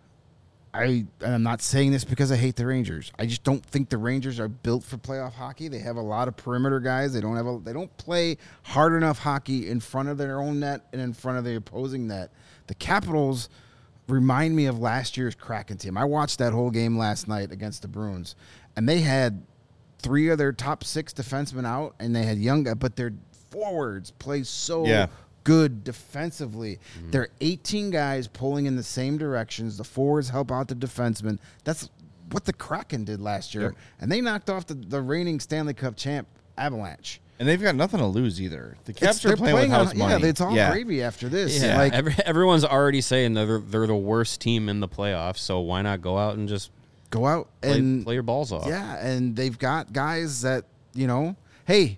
I and I'm not saying this because I hate the Rangers. I just don't think the Rangers are built for playoff hockey. They have a lot of perimeter guys. They don't have a, they don't play hard enough hockey in front of their own net and in front of the opposing net. The Capitals remind me of last year's Kraken team. I watched that whole game last night against the Bruins, and they had three of their top six defensemen out, and they had young guys, but their forwards play so Yeah. good defensively. They're eighteen guys pulling in the same directions. The forwards help out the defensemen. That's what the Kraken did last year, Yep. and they knocked off the, the reigning Stanley Cup champ Avalanche. And they've got nothing to lose either. The It's- Caps are they're playing, with house on, money. Yeah, it's all yeah. gravy after this. Yeah, Like, every, everyone's already saying they're they're the worst team in the playoffs. So why not go out and just go out play, and play your balls off? yeah, and they've got guys that, you know, hey,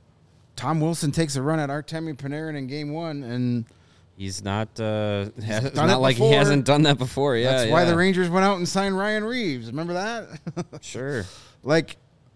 Tom Wilson takes a run at Artemi Panarin in game one, and He's not. Uh, has, it's done not it like he before. hasn't done that before. Yeah, that's why yeah. the Rangers went out and signed Ryan Reeves. Remember that? Sure. Like,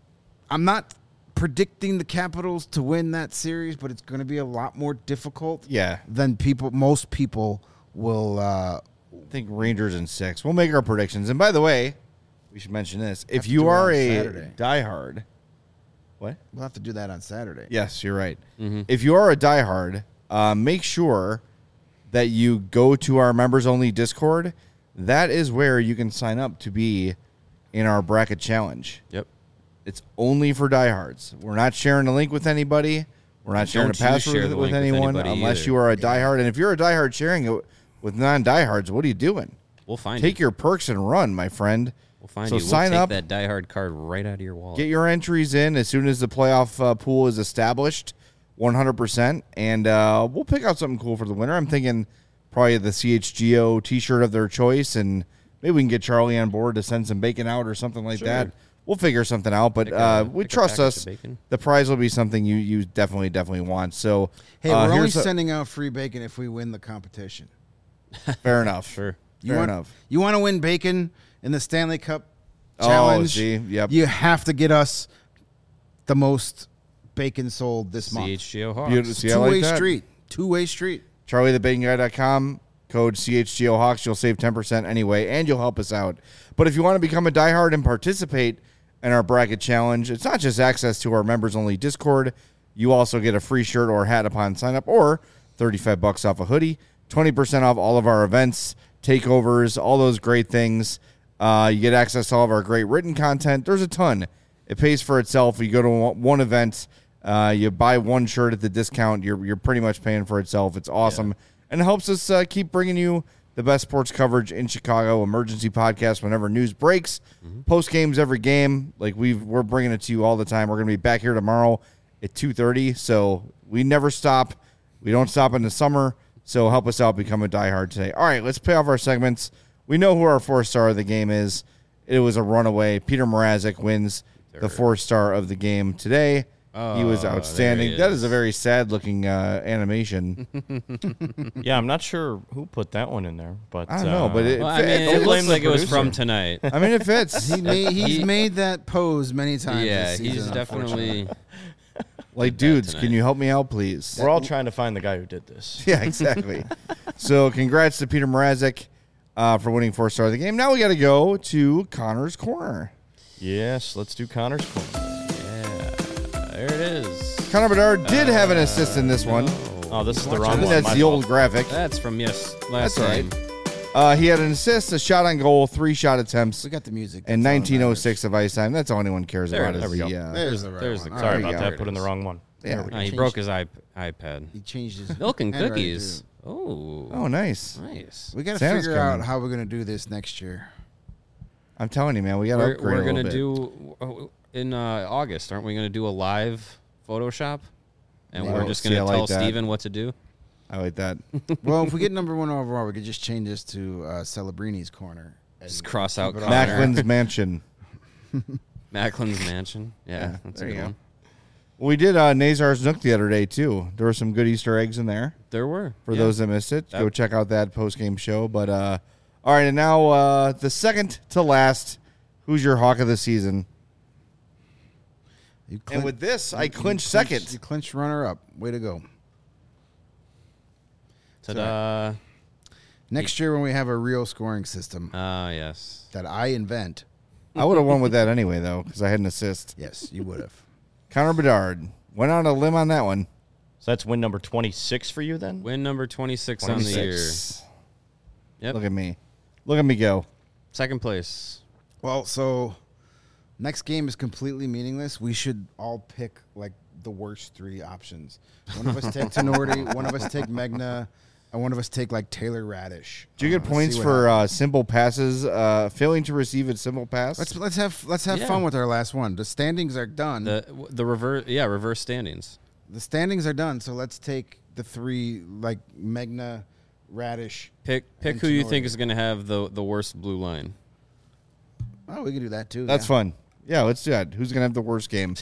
I'm not predicting the Capitals to win that series, but it's going to be a lot more difficult Yeah. than people, most people will. Uh, I think Rangers in six. We'll make our predictions. And by the way, we should mention this. If to you do it are on a Saturday. diehard, what? we'll have to do that on Saturday. Yes, you're right. Mm-hmm. If you are a diehard, uh, make sure that you go to our members only Discord. That is where you can sign up to be in our bracket challenge. Yep. It's only for diehards. We're not sharing a link with anybody. We're not sharing Don't a you password share with, the with link with anyone anybody unless either. you are a diehard. And if you're a diehard sharing it with non-diehards, what are you doing? We'll find Take you. your perks and run, my friend. We'll find so you. We'll sign take up. that diehard card right out of your wallet. Get your entries in as soon as the playoff uh, pool is established, one hundred percent, and uh, we'll pick out something cool for the winner. I'm thinking probably the C H G O T-shirt of their choice, and maybe we can get Charlie on board to send some bacon out or something like Sure. that. We'll figure something out, but Pick a- uh, we pick a trust package us. of bacon. The prize will be something you, you definitely, definitely want. So, Hey, uh, we're only here's a- sending out free bacon if we win the competition. fair enough. Sure. You Fair want, enough. You want to win bacon in the Stanley Cup Oh, challenge? see, yep. You have to get us the most bacon sold this month. C H G O Hawks. Beautiful. See, I like Two-way that. street. Two-way street. charlie the bacon guy dot com, code C H G O Hawks. You'll save ten percent anyway, and you'll help us out. But if you want to become a diehard and participate in our bracket challenge, it's not just access to our members-only Discord. You also get a free shirt or hat upon sign-up, or thirty-five bucks off a hoodie, twenty percent off all of our events, takeovers, all those great things. Uh, you get access to all of our great written content. There's a ton. It pays for itself. You go to one event, uh, you buy one shirt at the discount, you're you're pretty much paying for itself. It's awesome. Yeah. And it helps us uh, keep bringing you the best sports coverage in Chicago, emergency podcast whenever news breaks, post games every game. Like we've, we're bringing it to you all the time. We're going to be back here tomorrow at two thirty, so we never stop, We don't stop in the summer, so help us out, become a diehard today. All right, let's pay off our segments. We know who our four-star of the game is. It was a runaway. Peter Mrazek wins the four-star of the game today. Oh, he was outstanding. he That is. is a very sad-looking uh, animation. Yeah, I'm not sure who put that one in there, but I don't know, but it, Well, it, I mean, it, it don't looks blame the like it was producer. from tonight. I mean, it fits. He made, he's He- made that pose many times. Yeah, this season, he's unfortunately. definitely. Like, that dudes, tonight. can you help me out, please? we're all trying to find the guy who did this. Yeah, exactly. So congrats to Peter Mrazek uh, for winning four-star of the game. Now we got to go to Connor's Corner. Yes, let's do Connor's corner. Yeah, there it is. Connor Bedard did have an assist in this one. Oh, this is the Watch wrong I out. think one. that's My the fault. old graphic. That's from yes last That's all right. time. Uh, he had an assist, a shot on goal, three shot attempts, We got the music. and That's all that nineteen oh matters. six of ice time. That's all anyone cares There about it is is. the, There we uh, There's the right There's one. the- All Sorry There about you go. that. Put in the wrong one. yeah. No, he Changed- broke his iP- iPad. He changed his Milk and handwriting, cookies. too. Oh, Oh, nice. nice. We got to Santa's figure out coming. how we're going to do this next year. I'm telling you, man, we got to We're, upgrade we're a gonna little bit. do uh, in uh, August, aren't we? Gonna do a live Photoshop, and Yeah. we're just See, gonna I tell like that. Steven what to do. I like that. Well, if we get number one overall, we could just change this to uh, Celebrini's corner. and Just cross out keep it on Connor. there. Macklin's Mansion. Macklin's Mansion. Yeah, Yeah, that's there a you good go. one. Well, we did uh, Nazar's Nook the other day, too. There were some good Easter eggs in there. There were For yeah. those that missed it, That- go check out that post-game show. But, uh, all right, and now uh, the second to last, who's your Hawk of the season? You And clin- with this, I you clinch clinched- second. You clinched runner up. Way to go. Ta-da! Next year, when we have a real scoring system Ah, yes. that I invent, I would have won with that anyway, though, because I had an assist. yes, you would have. Connor Bedard went on a limb on that one. So that's win number twenty-six for you then? Win number twenty-six on the year. twenty-six. Yep. Look at me. Look at me go. Second place. Well, so next game is completely meaningless. We should all pick like the worst three options. One of us take Tenorti, one of us take Megna, and one of us take like Taylor Radish. Do you Uh, get let's points see what for happens. uh, simple passes, uh, failing to receive a simple pass? Let's let's have let's have Yeah. fun with our last one. The standings are done. The, The the reverse. Yeah, reverse standings. standings are done. So let's take the three like Megna, Radish. Pick pick And who you Tenori. think is going to have the the worst blue line. Oh, we can do that too. That's yeah. fun. Yeah, let's do that. Who's going to have the worst game?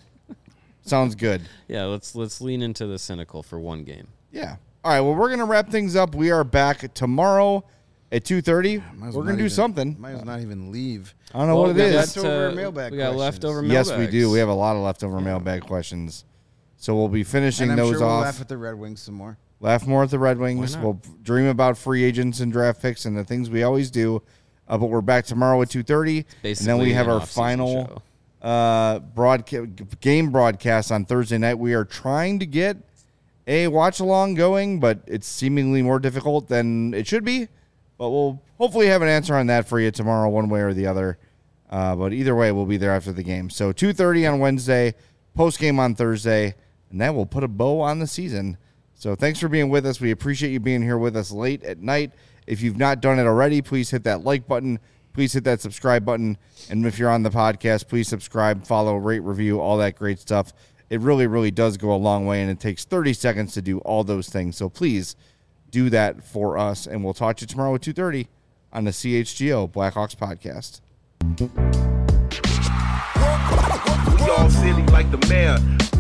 Sounds good. Yeah, let's let's lean into the cynical for one game. Yeah. All right, well, we're going to wrap things up. We are back tomorrow at two thirty. Might as We're well going not to do even- something. Might as well not even leave. I don't know Well, what we it got is. Leftover uh, mailbag We got questions. leftover Yes, mailbags. we do. We have a lot of leftover mailbag questions. So we'll be finishing And I'm those sure we'll off. laugh at the Red Wings some more. Laugh more at the Red Wings. not? We'll dream about free agents and draft picks and the things we always do. Uh, but we're back tomorrow at two thirty. And then we Basically have an our off-season final show. uh, broadca- game broadcast on Thursday night. We are trying to get a watch-along going, but it's seemingly more difficult than it should be. But we'll hopefully have an answer on that for you tomorrow, one way or the other. Uh, but either way, we'll be there after the game. So two thirty on Wednesday, post-game on Thursday, and that will put a bow on the season. So thanks for being with us. We appreciate you being here with us late at night. If you've not done it already, please hit that like button. Please hit that subscribe button. And if you're on the podcast, please subscribe, follow, rate, review, all that great stuff. It really, really does go a long way, and it takes thirty seconds to do all those things. So please do that for us, and we'll talk to you tomorrow at two thirty on the C H G O Blackhawks podcast. We all silly like the mayor.